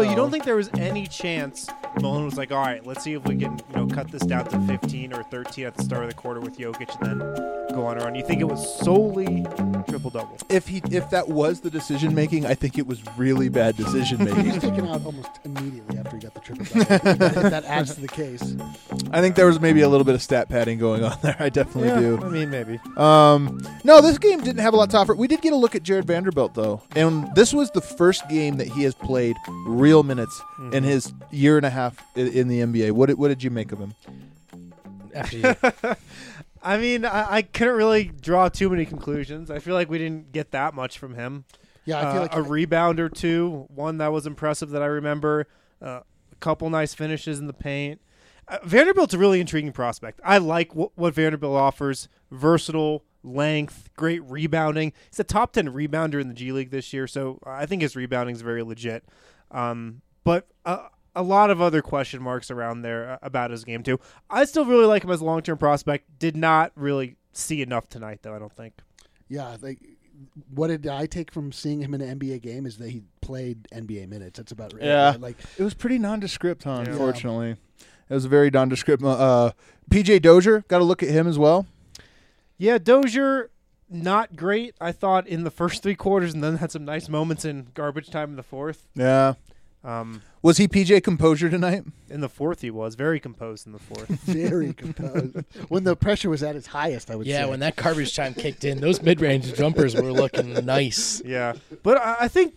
you don't think there was any chance Malone was like, all right, let's see if we can cut this down to 15 or 13 at the start of the quarter with Jokic and then go on a run? You think it was solely triple-double? If that was the decision-making, I think it was really bad decision-making. He was taken out almost immediately after he got the triple-double. If that adds to the case. I think there was maybe a little bit of stat padding going on there. I definitely do. I mean, maybe. No, this game didn't have a lot to offer. We did get a look at Jared Vanderbilt, though. And this was the first game that he has played real minutes in his year and a half in the NBA. What did you make of him? After you. I mean, I couldn't really draw too many conclusions. I feel like we didn't get that much from him. Yeah, I feel like a rebound or two, one that was impressive that I remember, a couple nice finishes in the paint. Vanderbilt's a really intriguing prospect. I like what Vanderbilt offers: versatile, length, great rebounding. He's a top 10 rebounder in the G League this year, so I think his rebounding is very legit. But a lot of other question marks around there about his game too. I still really like him as a long-term prospect. Did not really see enough tonight, though, I don't think. Yeah, what did I take from seeing him in an NBA game is that he played NBA minutes. That's about right. Yeah, Like it was pretty nondescript, huh, Yeah. unfortunately. It was a very nondescript. PJ Dozier, got to look at him as well. Yeah, Dozier, not great, I thought, in the first three quarters, and then had some nice moments in garbage time in the fourth. Yeah. Was he PJ Composure tonight? In the fourth, he was very composed in the fourth. very composed. When the pressure was at its highest, I would say. Yeah, when that garbage time kicked in, those mid-range jumpers were looking nice. Yeah, but I think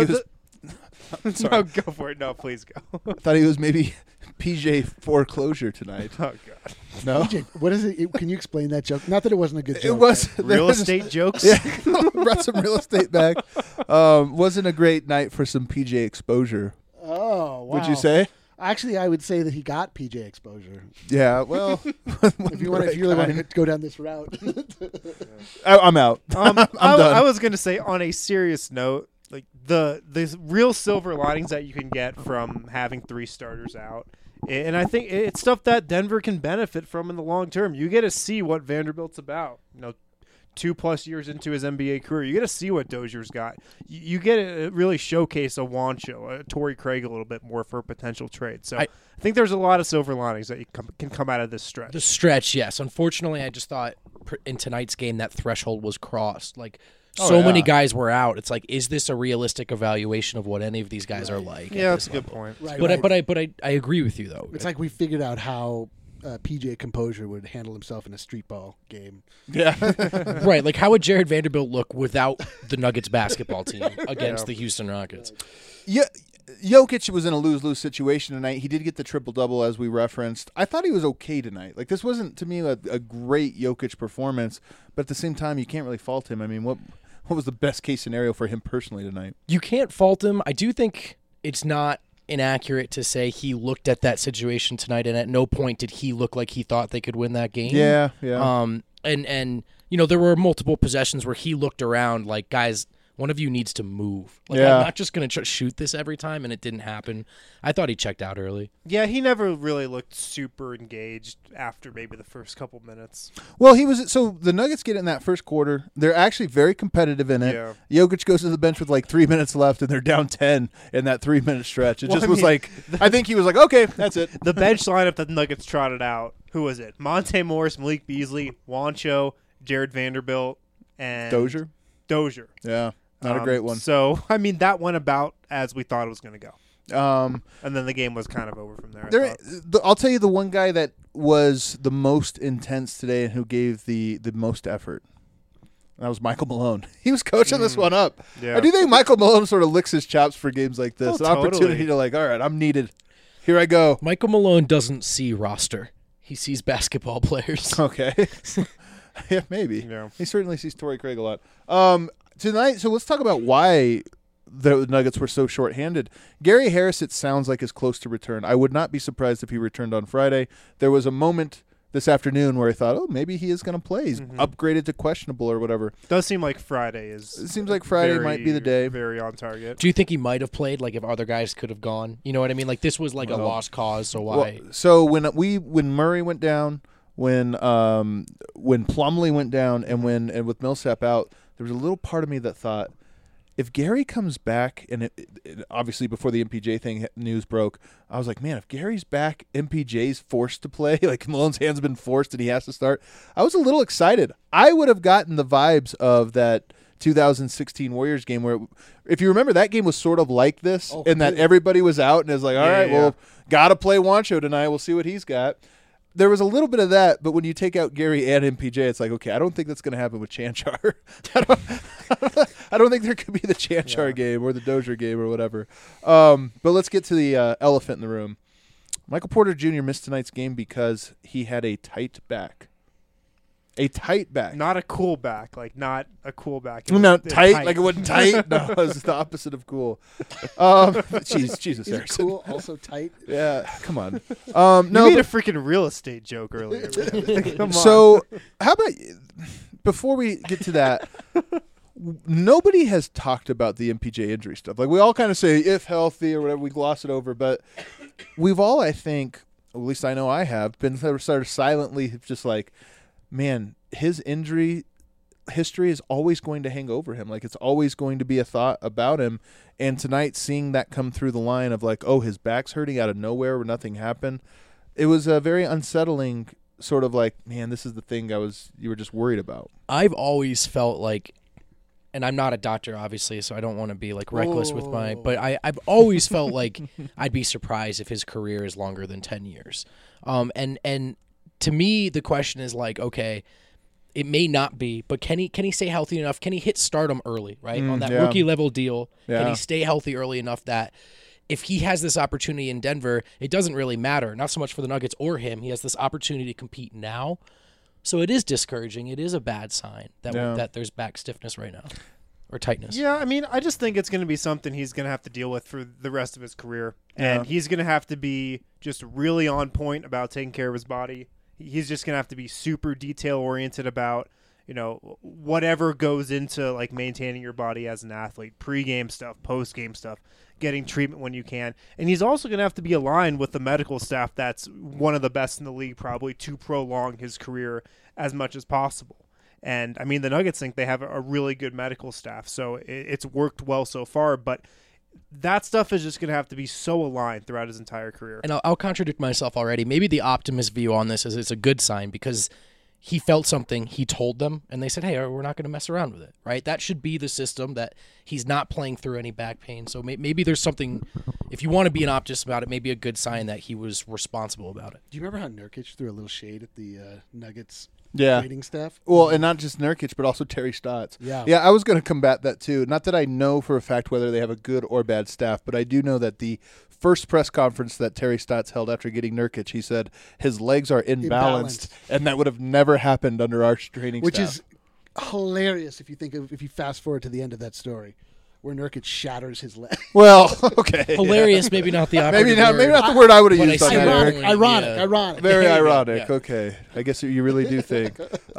I'm sorry. No, go for it. No, please go. I thought he was maybe PJ Foreclosure tonight. Oh God. No? PJ, what is it? Can you explain that joke? Not that it wasn't a good joke. It was. Real estate jokes. Yeah, brought some real estate back. Wasn't a great night for some PJ exposure. Oh, wow. Would you say? Actually, I would say that he got PJ exposure. Yeah, well. If you really want to go down this route. I'm out. I'm done. I was going to say, on a serious note, like the real silver linings that you can get from having three starters out. And I think it's stuff that Denver can benefit from in the long term. You get to see what Vanderbilt's about. 2+ years into his NBA career, you get to see what Dozier's got. You get to really showcase a Juancho, a Torrey Craig a little bit more for a potential trade. So I think there's a lot of silver linings that can come out of this stretch. The stretch, yes. Unfortunately, I just thought in tonight's game that threshold was crossed. Like, many guys were out. It's like, is this a realistic evaluation of what any of these guys are like? Yeah, that's a good point. Right, But I agree with you though. It's like we figured out how PJ Composure would handle himself in a street ball game. Yeah. Right. Like, how would Jared Vanderbilt look without the Nuggets basketball team against the Houston Rockets? Yeah. Jokic was in a lose-lose situation tonight. He did get the triple-double, as we referenced. I thought he was okay tonight. Like, this wasn't, to me, a great Jokic performance, but at the same time, you can't really fault him. I mean, what was the best-case scenario for him personally tonight? You can't fault him. I do think it's not inaccurate to say he looked at that situation tonight, and at no point did he look like he thought they could win that game. Yeah. And there were multiple possessions where he looked around like, guys, one of you needs to move. Like, I'm not just going to shoot this every time, and it didn't happen. I thought he checked out early. Yeah, he never really looked super engaged after maybe the first couple minutes. Well, so the Nuggets get in that first quarter. They're actually very competitive in it. Yeah. Jokic goes to the bench with like 3 minutes left, and they're down 10 in that 3-minute stretch. It just was like, I think he was like, okay, that's it. The bench lineup that the Nuggets trotted out, who was it? Monte Morris, Malik Beasley, Juancho, Jared Vanderbilt, and Dozier. Yeah, not a great one. So, I mean, that went about as we thought it was going to go. And then the game was kind of over from there. I'll tell you the one guy that was the most intense today and who gave the most effort. That was Michael Malone. He was coaching this one up. Yeah. I do think Michael Malone sort of licks his chops for games like this. An totally. Opportunity to like, all right, I'm needed. Here I go. Michael Malone doesn't see roster. He sees basketball players. Okay. Yeah, maybe. Yeah. He certainly sees Torrey Craig a lot. Tonight, so let's talk about why the Nuggets were so shorthanded. Gary Harris, it sounds like, is close to return. I would not be surprised if he returned on Friday. There was a moment this afternoon where I thought, oh, maybe he is going to play. He's upgraded to questionable or whatever. Does seem like Friday is. It seems like Friday might be the day. Very on target. Do you think he might have played, like, if other guys could have gone? You know what I mean? Like, this was like a lost cause, so why? Well, so when Murray went down, when Plumlee went down, and with Millsap out, there was a little part of me that thought, if Gary comes back, and it obviously before the MPJ thing news broke, I was like, man, if Gary's back, MPJ's forced to play, like Malone's hand's been forced and he has to start. I was a little excited. I would have gotten the vibes of that 2016 Warriors game where, if you remember, that game was sort of like this, in that everybody was out and it was like, all right, well, got to play Juancho tonight. We'll see what he's got. There was a little bit of that, but when you take out Gary and MPJ, it's like, okay, I don't think that's going to happen with Chanchar. I don't think there could be the Chanchar game or the Dozier game or whatever. But let's get to the elephant in the room. Michael Porter Jr. missed tonight's game because he had a tight back. A tight back. Not a cool back. Like, not a cool back. No, tight. Like it wasn't tight. No, it was the opposite of cool. Jesus, Harrison. Cool, also tight. Yeah, come on. No, you made but, a freaking real estate joke earlier. Come on. So, how about, before we get to that, nobody has talked about the MPJ injury stuff. Like, we all kind of say, if healthy or whatever, we gloss it over. But we've all, I think, at least I know I have, been sort of silently just like, man, his injury history is always going to hang over him. Like, it's always going to be a thought about him. And tonight, seeing that come through the line of like, oh, his back's hurting out of nowhere where nothing happened, it was a very unsettling sort of like, man, this is the thing you were just worried about. I've always felt like, and I'm not a doctor, obviously, so I don't want to be like reckless with but I've always felt like I'd be surprised if his career is longer than 10 years. And to me, the question is like, okay, it may not be, but can he stay healthy enough? Can he hit stardom early, right? On that rookie level deal, can he stay healthy early enough that if he has this opportunity in Denver, it doesn't really matter, not so much for the Nuggets or him. He has this opportunity to compete now. So it is discouraging. It is a bad sign that there's back stiffness right now. Or tightness. Yeah, I mean, I just think it's going to be something he's going to have to deal with for the rest of his career. And he's going to have to be just really on point about taking care of his body. He's just going to have to be super detail-oriented about, whatever goes into, like, maintaining your body as an athlete. Pre-game stuff, post-game stuff, getting treatment when you can. And he's also going to have to be aligned with the medical staff that's one of the best in the league, probably, to prolong his career as much as possible. And, I mean, the Nuggets think they have a really good medical staff, so it's worked well so far. But that stuff is just going to have to be so aligned throughout his entire career. And I'll contradict myself already. Maybe the optimist view on this is it's a good sign because he felt something, he told them, and they said, hey, we're not going to mess around with it, right? That should be the system, that he's not playing through any back pain. So maybe there's something, if you want to be an optimist about it, maybe a good sign that he was responsible about it. Do you remember how Nurkic threw a little shade at the Nuggets yeah. training staff? Well, and not just Nurkic, but also Terry Stotts. Yeah. Yeah, I was going to combat that too. Not that I know for a fact whether they have a good or bad staff, but I do know that the first press conference that Terry Stotts held after getting Nurkic, he said his legs are imbalanced. And that would have never happened under our training Which staff. is hilarious if you fast forward to the end of that story, where Nurkic shatters his leg. Well, okay. Hilarious, maybe not the operative maybe not the word I would have But used I on see that, what Eric. you're Ironic. Very Yeah. ironic. Yeah. Okay. I guess you really do think.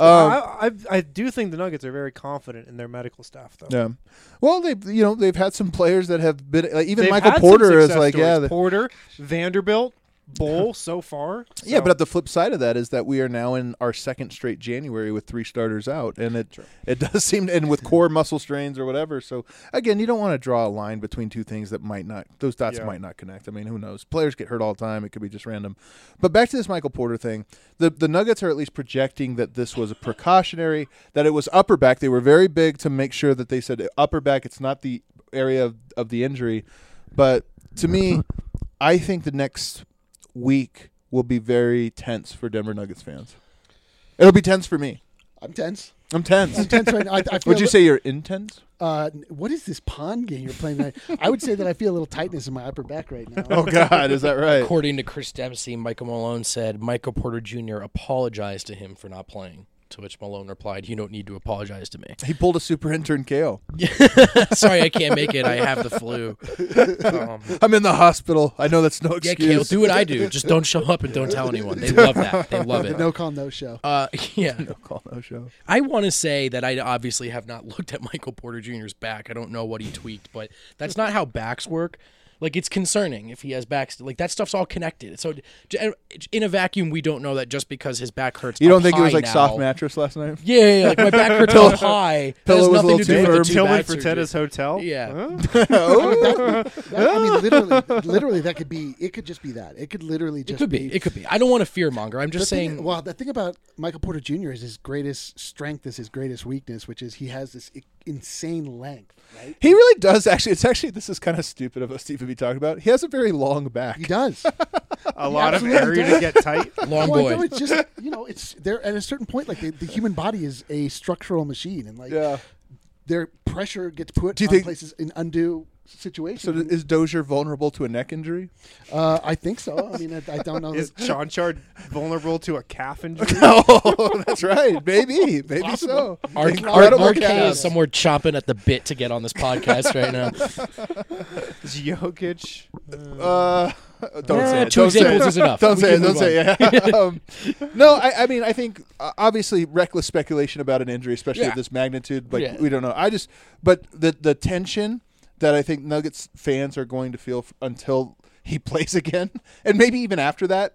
I do think the Nuggets are very confident in their medical staff, though. Yeah. Well, they've had some players that have been like, even They've Michael had some Porter is success like stories. Porter, Vanderbilt, Bull so far. Yeah, but at the flip side of that is that we are now in our second straight January with 3 starters out, and it does seem, and with core muscle strains or whatever. So again, you don't want to draw a line between two things that those dots might not connect. I mean, who knows? Players get hurt all the time. It could be just random. But back to this Michael Porter thing, the Nuggets are at least projecting that this was a precautionary, that it was upper back. They were very big to make sure that they said upper back. It's not the area of the injury, but to me, I think the next week will be very tense for Denver Nuggets fans. It'll be tense for me. I'm tense. I'm tense. I'm tense right now. I feel Would you say you're intense? What is this pond game you're playing tonight? I would say that I feel a little tightness in my upper back right now. Oh, God, is that right? According to Chris Dempsey, Michael Malone said Michael Porter Jr. apologized to him for not playing. To which Malone replied, "You don't need to apologize to me." He pulled a super intern KO. Sorry, I can't make it. I have the flu. I'm in the hospital. I know that's no Yeah, excuse. Kale, do what I do. Just don't show up and don't tell anyone. They love that. They love The it. no call, no show. Yeah. No call, no show. I want to say that I obviously have not looked at Michael Porter Jr.'s back. I don't know what he tweaked, but that's not how backs work. Like, it's concerning if he has back. Like, that stuff's all connected. So, in a vacuum, we don't know that just because his back hurts. You don't up think it was high like now, soft mattress last night? Yeah, like my back hurts up high. That Pillow has was a nothing little to do too with firm. the Tilly bad surgery. Fertitta's hotel. Yeah. Oh. I mean, literally, that could be. It could just be that. It could literally just. It could be. It could be. I don't want to fear monger. I'm just saying. Well, the thing about Michael Porter Jr. is his greatest strength is his greatest weakness, which is he has this insane length. Right? He really does actually. This is kind of stupid of us to even be talking about. He has a very long back. He does. A lot of absolutely area to get tight. Long Well, boy. no, it's just it's there at a certain point. Like the human body is a structural machine, and like Yeah. their pressure gets put Do you on think- places in undue So situations. is Dozier vulnerable to a neck injury? I think so. I mean, I don't know. Is Chonchard vulnerable to a calf injury? Oh, that's right. Maybe so. Possible. Incredible RK calves. is somewhere chomping at the bit to get on this podcast right now. Is Jokic? Don't say it. Two Don't say examples it. is enough. Don't We say can it. Don't move say it. Yeah. No, I mean, I think obviously reckless speculation about an injury, especially Yeah. of this magnitude. Like Yeah. we don't know. But the tension that I think Nuggets fans are going to feel until he plays again, and maybe even after that,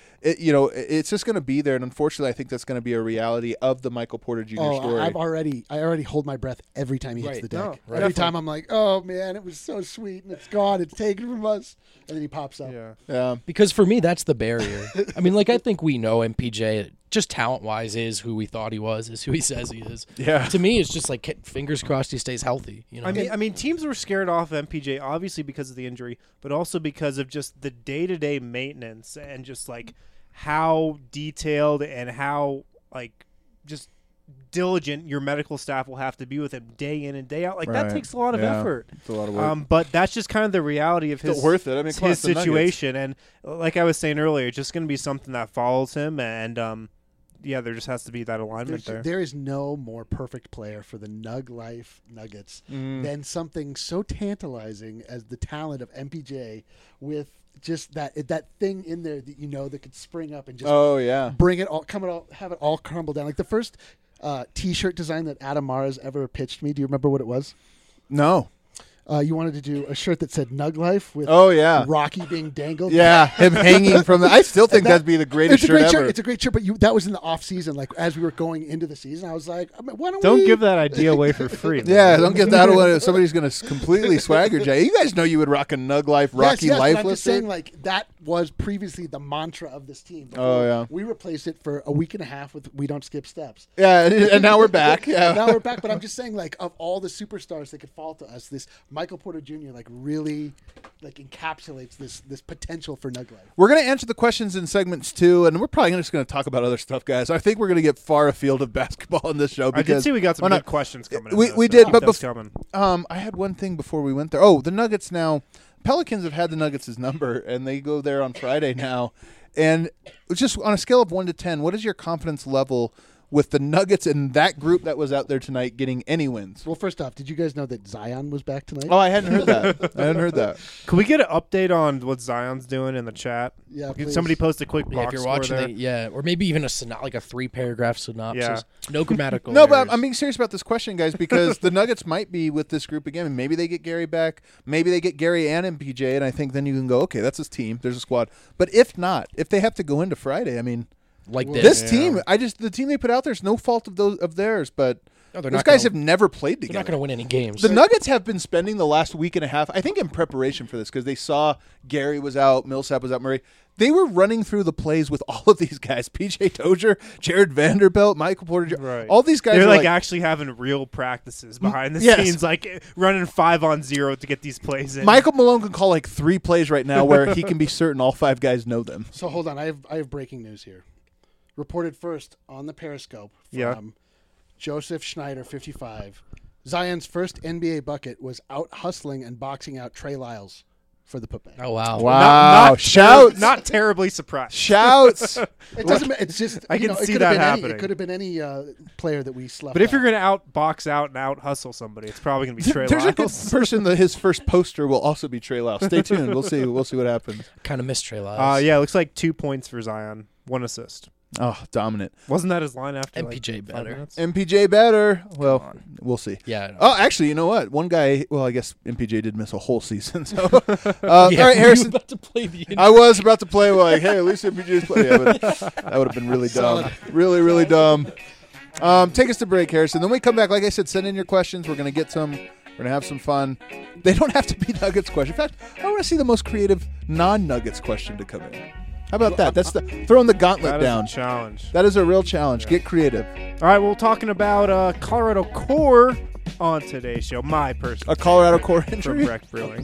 it's just going to be there. And unfortunately, I think that's going to be a reality of the Michael Porter Jr. story. I already hold my breath every time he hits Right. the deck. No, Every definitely. time I'm like, oh man, it was so sweet, and it's gone, it's taken from us, and then he pops up. Yeah. Yeah. Because for me, that's the barrier. I mean, like, I think we know MPJ, just talent-wise, is who we thought he was, is who he says he is. Yeah. To me, it's just like, fingers crossed he stays healthy. You know? I mean, teams were scared off MPJ obviously because of the injury, but also because of just the day-to-day maintenance and just like how detailed and how like just diligent your medical staff will have to be with him day in and day out. Like that Right. takes a lot of Yeah. effort. It's a lot of work. But that's just kind of the reality of Still his worth it. I mean, come on, his it's the Nuggets. situation. And like I was saying earlier, it's just going to be something that follows him. And yeah, there just has to be that alignment there. There is no more perfect player for the Nug Life Nuggets than something so tantalizing as the talent of MPJ with just that thing in there that that could spring up and just Oh yeah. bring it all, have it all crumble down. Like the first T-shirt design that Adam Mars ever pitched me. Do you remember what it was? No. You wanted to do a shirt that said Nug Life with Oh yeah. Rocky being dangled. Yeah, him hanging from the. I still think that'd be the greatest It's a shirt great ever. shirt. It's a great shirt, but that was in the off season. Like as we were going into the season, I was like, why don't Don't we give that idea away for free. Yeah, man. don't get that away. Somebody's going to completely swagger Jay. You guys know you would rock a Nug Life, Rocky yes, Life but I'm just shirt. saying, like that was previously the mantra of this team. Oh, yeah. we replaced it for a week and a half with "We don't skip steps." Yeah, and now we're back. Yeah. Now we're back, but I'm just saying, like of all the superstars that could fall to us, this Michael Porter Jr. like really like encapsulates this potential for Nug Life. We're going to answer the questions in segments 2, and we're probably just going to talk about other stuff, guys. I think we're going to get far afield of basketball in this show. I Because did see we got some why good not? questions coming in. We though, so did, keep but those bef- coming. I had one thing before we went there. Oh, the Nuggets now. Pelicans have had the Nuggets' number, and they go there on Friday now. And just on a scale of 1 to 10, what is your confidence level with the Nuggets and that group that was out there tonight getting any wins? Well, first off, did you guys know that Zion was back tonight? Oh, I hadn't heard that. I hadn't heard that. Can we get an update on what Zion's doing in the chat? Yeah, Can please. somebody post a quick Yeah, box if you're score watching, there? yeah, or maybe even like a 3-paragraph synopsis. Yeah. No grammatical. No, but errors. I'm being serious about this question, guys, because the Nuggets might be with this group again. And maybe they get Gary back. Maybe they get Gary and MPJ, and I think then you can go, okay, that's his team. There's a squad. But if not, if they have to go into Friday, I mean, like Well, this Yeah. team, the team they put out there is no fault of theirs, but No, they're those not guys gonna- have never played They're together. not going to win any games. The Nuggets have been spending the last week and a half, I think, in preparation for this because they saw Gary was out, Millsap was out, Murray. They were running through the plays with all of these guys: PJ Dozier, Jared Vanderbilt, Michael Porter. Right. All these guys They're are like actually having real practices behind the yes. scenes, like running 5-on-0 to get these plays in. Michael Malone can call like 3 plays right now where he can be certain all 5 guys know them. So hold on, I have breaking news here. Reported first on the Periscope from Yeah. Joseph Schneider, 55. Zion's first NBA bucket was out hustling and boxing out Trey Lyles for the putback. Oh wow. Wow! Shouts! Not terribly surprised. Shouts! It doesn't. It's just. I can it see could that have been happening. It could have been any player that we slept. But if you're on. going to out box out and out hustle somebody, it's probably going to be Trey There's a good Lyles. person that his first poster will also be Trey Lyles. Stay tuned. We'll see. We'll see what happens. Kind of missed Trey Lyles. Yeah, it looks like 2 points for Zion, 1 assist. Oh, dominant. Wasn't that his line after MPJ like 5 better. minutes? MPJ better. Well, on. we'll see. Yeah. Oh, actually, you know what? One guy. Well, I guess MPJ did miss a whole season. So, all right, Harrison. about to play the I was about to play like, hey, at least MPJ's playing. Yeah, but that would have been really dumb. Really, really dumb. Take us to break, Harrison. Then we come back. Like I said, send in your questions. We're gonna get some. We're gonna have some fun. They don't have to be Nuggets questions. In fact, I want to see the most creative non-Nuggets question to come in. How about that? That's throwing the gauntlet That is down. a challenge. That is a real challenge. Get creative. All right, we're talking about Colorado Core on today's show. My personal A Colorado core from injury. Breck Brewing.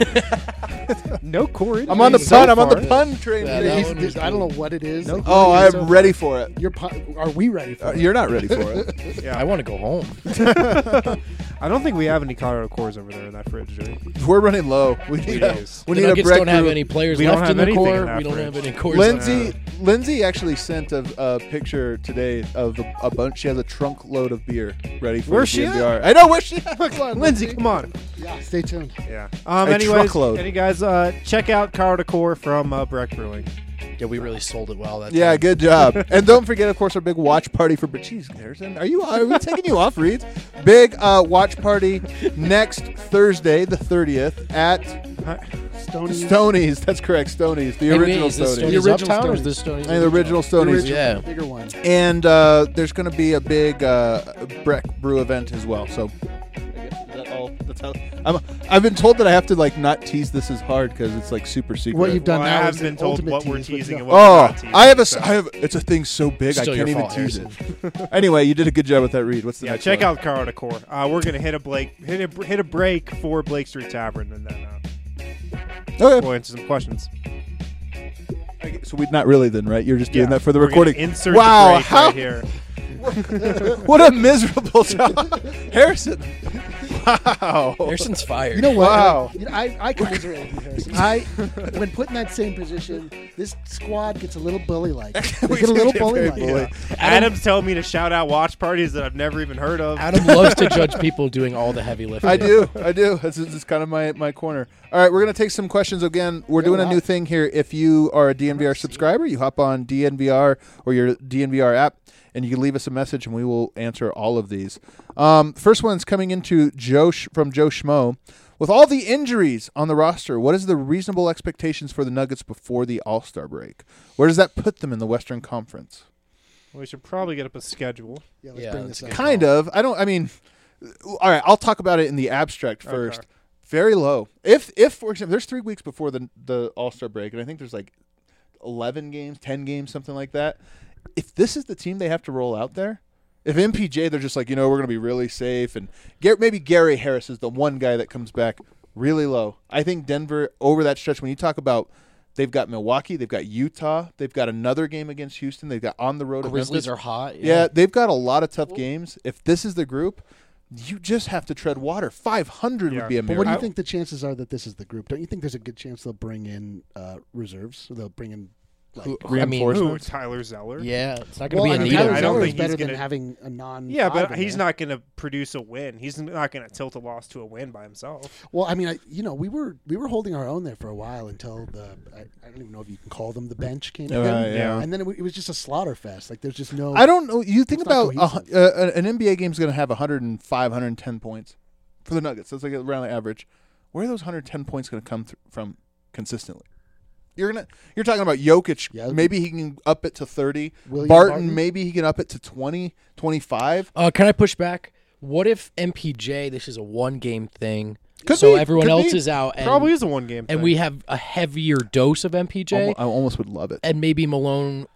No core injury. I'm on the so pun. I'm on the far. pun train. Yeah, today. that one was I don't know what it is. No. Oh, Core I'm so ready for it. Are we ready for it? You're not ready for it. Yeah. I want to go home. I don't think we have any Colorado cores over there in that fridge, do we? We're running low. We need a, do. we The need a Nuggets Breck don't have Brew. any players We don't left have in the anything in core. that We don't fridge. have any cores. Lindsay actually sent a picture today of a bunch. She has a trunk load of beer ready for Where's the she DNVR. I know where she at. Come on, Lindsay, come on. Yeah, stay tuned. Yeah. A Anyways, truckload. any guys, check out Colorado Core from Breck Brewing. Yeah, we really sold it well. That Yeah, time. good job. And don't forget, of course, our big watch party for. Jeez, Harrison, are we taking you off, Reed? Big watch party next Thursday, the 30th, at Stoney's. That's correct, Stoney's, the Hey, wait, original is this Stoney's. The Stoney's original Uptown or is Stoney's. this Stoney's? And the original Stoney's. Yeah. Bigger one. And there's going to be a big Breck Brew event as well. So, I guess is that all? That's how. I've been told that I have to like not tease this as hard because it's like super secret. What you've done Well, now I is have been an told ultimate what we're tease, but teasing no. and what we're Oh, not teasing. I have a. so. I have. It's a thing so big Still I your can't even fault, tease it. Anyway, you did a good job with that, Reed. What's the Yeah, next check one? out Colorado Core. We're gonna hit a break for Blake Street Tavern, and then Okay. we'll answer some questions. So we're not really then, right? You're just doing Yeah, that for the we're gonna recording. Insert Wow, the break how- right here. What a miserable job, Harrison. Wow. Harrison's fired. You know what? Wow. You know, I commiserate with you, Harrison. When put in that same position, this squad gets a little bully-like. They We get a do little get very bully-like. bully. Adam's telling me to shout out watch parties that I've never even heard of. Adam loves to judge people doing all the heavy lifting. I do. It's kind of my corner. All right, we're going to take some questions again. We're doing a wow. new thing here. If you are a DNVR subscriber, you hop on DNVR or your DNVR app, and you can leave us a message, and we will answer all of these. First one's coming into from Joe Schmo. With all the injuries on the roster, what is the reasonable expectations for the Nuggets before the All-Star break? Where does that put them in the Western Conference? We should probably get up a schedule. Yeah, let's Yeah, bring that's this a up. good Kind of. All right, I'll talk about it in the abstract first. Okay. Very low. If for example, there's 3 weeks before the All-Star break, and I think there's like 11 games, 10 games, something like that. If this is the team they have to roll out there, if MPJ, they're just like, we're going to be really safe, and maybe Gary Harris is the one guy that comes back really low. I think Denver, over that stretch, when you talk about they've got Milwaukee, they've got Utah, they've got another game against Houston, they've got on the road. Grizzlies at are hot. Yeah, they've got a lot of tough games. If this is the group, you just have to tread water. 500 Yeah. would be a But miracle. what do you think the chances are that this is the group? Don't you think there's a good chance they'll bring in reserves? Or they'll bring in like, I mean, Reinforcement? Who? Tyler Zeller? Yeah, it's not going well, to I be mean, Anita. Tyler I don't Zeller think is better he's than gonna- having a non. Yeah, but in he's there. not going to produce a win. He's not going to tilt a loss to a win by himself. Well, I mean, we were holding our own there for a while until I don't even know if you can call them the bench came in, yeah. and then it was just a slaughter fest. Like there's just no. I don't know. You think It's not about cohesive. an NBA game is going to have 105, 110 points for the Nuggets. That's like around the average. Where are those 110 points going to come from consistently? You're talking about Jokic. Yeah. Maybe he can up it to 30. William Barton, maybe he can up it to 20, 25. Can I push back? What if MPJ? This is a one-game thing, Could so be, everyone could else be. is out, and Probably is a one-game thing. and we have a heavier dose of MPJ, I almost would love it. and maybe Malone.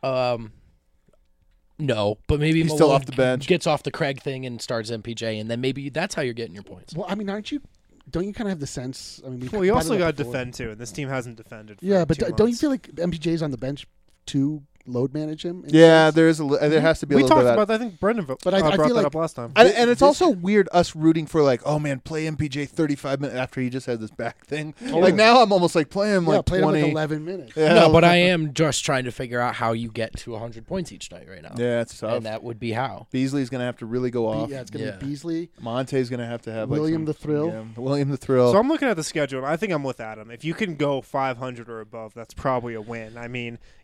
No, but maybe He's Malone still off the bench. gets off the Craig thing and starts MPJ, and then maybe that's how you're getting your points. Well, I mean, don't you kind of have the sense? I mean, Well, you also got to before. defend too, and this team hasn't defended. For Yeah, but 2 don't you months. feel like MPJ's on the bench to load manage him? in a Yeah, sense? there has to be a we little talked bit of that. about that? I think Brendan But I brought feel that like- up last time. And it's This- also weird us rooting for like, oh man, play MPJ 35 minutes after he just had this back thing. Like now I'm almost like play him Yeah, like played 20. him like 11 minutes. Yeah. No, but I am just trying to figure out how you get to 100 points each night right now. Yeah, it's tough. And that would be how. Beasley's gonna have to really go off. Yeah, it's gonna Yeah. be Beasley. Monte's gonna have to have like, William some- the Thrill. Yeah, William the Thrill. So I'm looking at the schedule, and I think I'm with Adam. If you can go 500 or above, that's probably a win. I mean,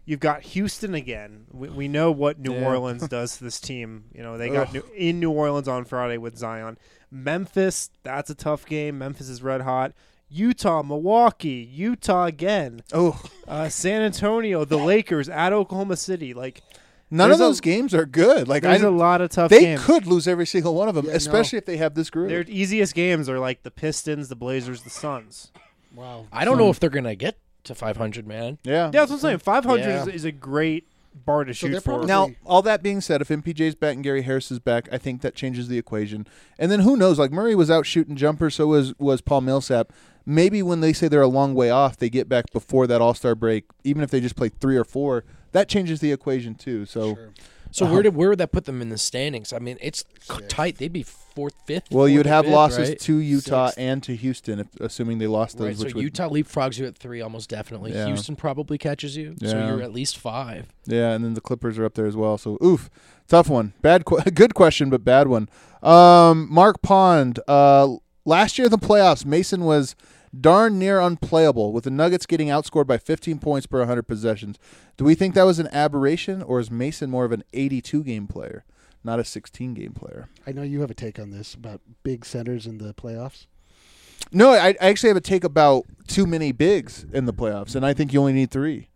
You've got Houston again. We know what New Yeah. Orleans does to this team. They got in New Orleans on Friday with Zion. Memphis, that's a tough game. Memphis is red hot. Utah, Milwaukee, Utah again. Oh, San Antonio, the Lakers at Oklahoma City. none of There's those games are good. There's a lot of tough they games. could lose every single one of them, Yeah, especially if they have this group. Their easiest games are the Pistons, the Blazers, the Suns. Wow. I don't know if they're gonna get to 500, man. Yeah. Yeah, that's what I'm saying. 500 Yeah. is a great bar to So shoot they're for. probably- Now, all that being said, if MPJ's back and Gary Harris is back, I think that changes the equation. And then who knows? Like Murray was out shooting jumpers, so was Paul Millsap. Maybe when they say they're a long way off, they get back before that All-Star break. Even if they just play 3 or 4, that changes the equation too. So, Sure. So where would that put them in the standings? I mean, it's tight. They'd be fourth, fifth. well, you'd fourth or have fifth, losses right? to Utah Sixth. and to Houston, assuming they lost those. Right, so which would, Utah leapfrogs you at 3 almost definitely. Yeah. Houston probably catches you, so Yeah. you're at least 5. yeah, and then the Clippers are up there as well. So, tough one. Good question, but bad one. Mark Pond. Last year in the playoffs, Mason was darn near unplayable, with the Nuggets getting outscored by 15 points per 100 possessions. Do we think that was an aberration, or is Mason more of an 82-game player, not a 16-game player? I know you have a take on this about big centers in the playoffs. No, I actually have a take about too many bigs in the playoffs, and I think you only need 3.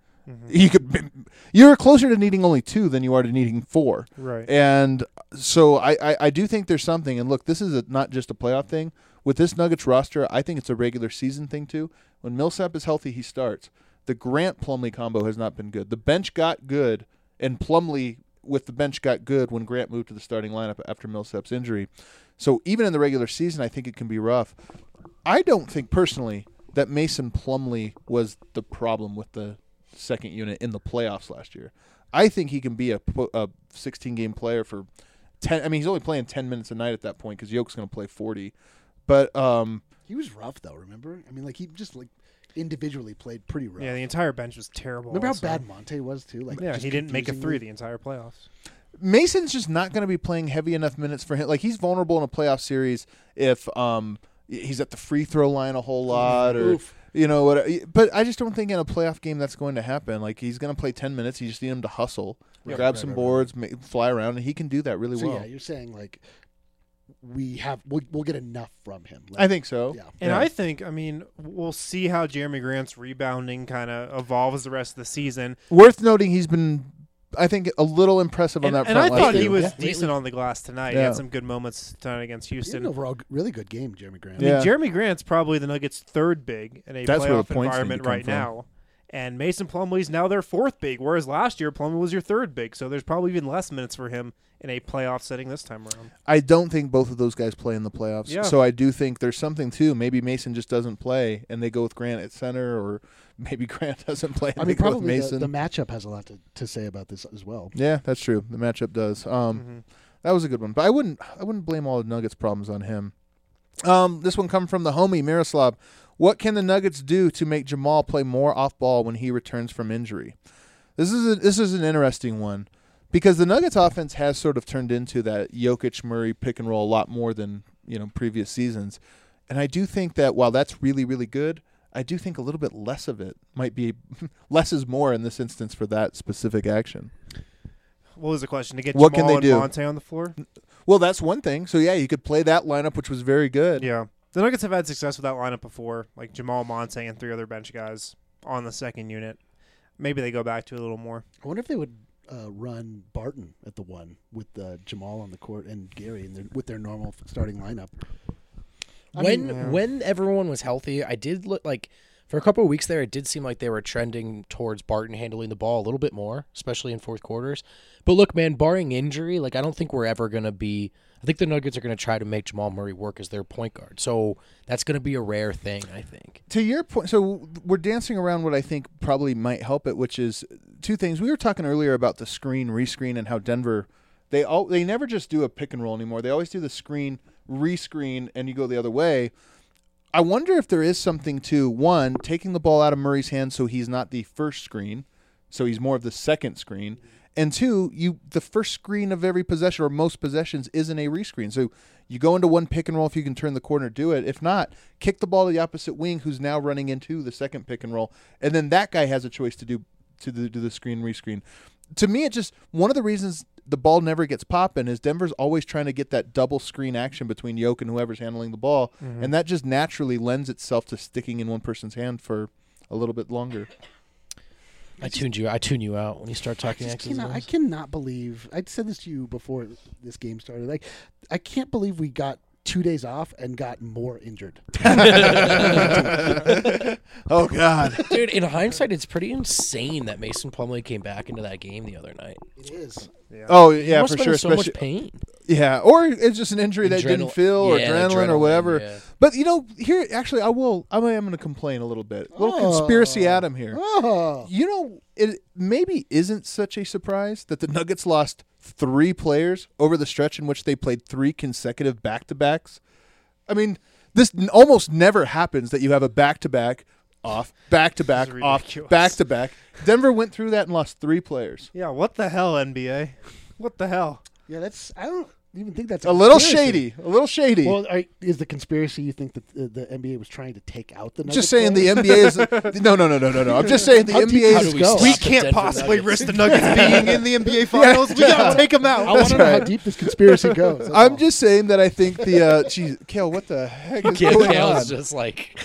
You're closer to needing only 2 than you are to needing 4. Right. And so I do think there's something. And look, this is not just a playoff thing. With this Nuggets roster, I think it's a regular season thing too. When Millsap is healthy, he starts. The Grant-Plumlee combo has not been good. The bench got good, and Plumlee with the bench got good when Grant moved to the starting lineup after Millsap's injury. So even in the regular season, I think it can be rough. I don't think personally that Mason Plumlee was the problem with the second unit in the playoffs last year. I think he can be a 16-game player for 10. I mean, he's only playing 10 minutes a night at that point because Yoke's going to play 40. But He was rough though. Remember? I mean, he just individually played pretty rough. Yeah, the entire bench was terrible. Remember also. how bad Monte was too? Yeah, just he didn't make a 3 confusingly- the entire playoffs. Mason's just not going to be playing heavy enough minutes for him. Like, he's vulnerable in a playoff series if he's at the free throw line a whole lot or Oof. what. But I just don't think in a playoff game that's going to happen. Like, he's going to play 10 minutes. You just need him to hustle, grab some boards, fly around, and he can do that really So well. yeah, you're saying we'll get enough from him. I think so. Yeah. And Yeah. I think, we'll see how Jeremy Grant's rebounding kind of evolves the rest of the season. Worth noting, he's been, I think, a little impressive on And, that and front. I last thought he year. was Yeah. decent on the glass tonight. He Yeah. had some good moments tonight against He had Houston. an overall really good game, Jeremy Grant. I mean, Yeah. Jeremy Grant's probably the Nuggets' 3rd big in a That's where the playoff points need to environment come right from. now. And Mason Plumlee's now their 4th big, whereas last year Plumlee was your 3rd big. So there's probably even less minutes for him in a playoff setting this time around. I don't think both of those guys play in the playoffs. Yeah. So I do think there's something too. Maybe Mason just doesn't play, and they go with Grant at center, or maybe Grant doesn't play and I they mean, go with probably Mason. the matchup has a lot to say about this as well. Yeah, that's true. The matchup does. That was a good one, but I wouldn't blame all the Nuggets' problems on him. This one come from the homie Miroslav. What can the Nuggets do to make Jamal play more off ball when he returns from injury? This is an interesting one because the Nuggets offense has sort of turned into that Jokic Murray pick and roll a lot more than previous seasons, and I do think that while that's really really good, I do think a little bit less of it might be less is more in this instance for that specific action. What was the question? To get What Jamal can they and do? Monte on the floor? Well, that's one thing. So yeah, you could play that lineup, which was very good. Yeah. The Nuggets have had success with that lineup before, like Jamal, Monte, and 3 other bench guys on the second unit. Maybe they go back to it a little more. I wonder if they would run Barton at the 1 with Jamal on the court and Gary with their normal starting lineup. When everyone was healthy, I did look like for a couple of weeks there, it did seem like they were trending towards Barton handling the ball a little bit more, especially in fourth quarters. But look, man, barring injury, I don't think we're ever going to be – I think the Nuggets are going to try to make Jamal Murray work as their point guard. So that's going to be a rare thing, I think. To your point, so we're dancing around what I think probably might help it, which is 2 things. We were talking earlier about the screen, rescreen, and how Denver they never just do a pick and roll anymore. They always do the screen, rescreen, and you go the other way. I wonder if there is something to, 1, taking the ball out of Murray's hands so he's not the first screen, so he's more of the second screen. And 2, the first screen of every possession or most possessions isn't a rescreen. So you go into one pick and roll if you can turn the corner, do it. If not, kick the ball to the opposite wing who's now running into the second pick and roll. And then that guy has a choice to do do the screen rescreen. To me, it just one of the reasons the ball never gets popping is Denver's always trying to get that double screen action between Yoke and whoever's handling the ball, and that just naturally lends itself to sticking in one person's hand for a little bit longer. I tune you out when you start talking X's and I O's. cannot believe. I said this to you before this game started. Like, I can't believe we got 2 days off and got more injured. Oh God! Dude, in hindsight, it's pretty insane that Mason Plumlee came back into that game the other night. It is. Oh He yeah, must for have been sure. in so much Especially pain. yeah, or it's just an injury that didn't feel, or Yeah, adrenaline, or whatever. yeah. But here, actually, I am going to complain a little bit. A little conspiracy Adam here. Oh. It maybe isn't such a surprise that the Nuggets lost 3 players over the stretch in which they played 3 consecutive back-to-backs. I mean, this almost never happens that you have a back-to-back off, back-to-back This is off, ridiculous. back-to-back. Denver went through that and lost 3 players. Yeah, what the hell, NBA? What the hell? Yeah, I don't even think that's A little conspiracy. shady. A little shady. Well, is the conspiracy you think that the NBA was trying to take out the Nuggets? Just saying players? the NBA is no. I'm just saying the How deep NBA does is it go? We Stop the can't Denver possibly Nuggets. risk the Nuggets being in the NBA Finals. We gotta take them out. I want to know how right. deep this conspiracy goes. That's I'm all. just saying that I think the geez, Kale, what the heck is going on? Kale's just like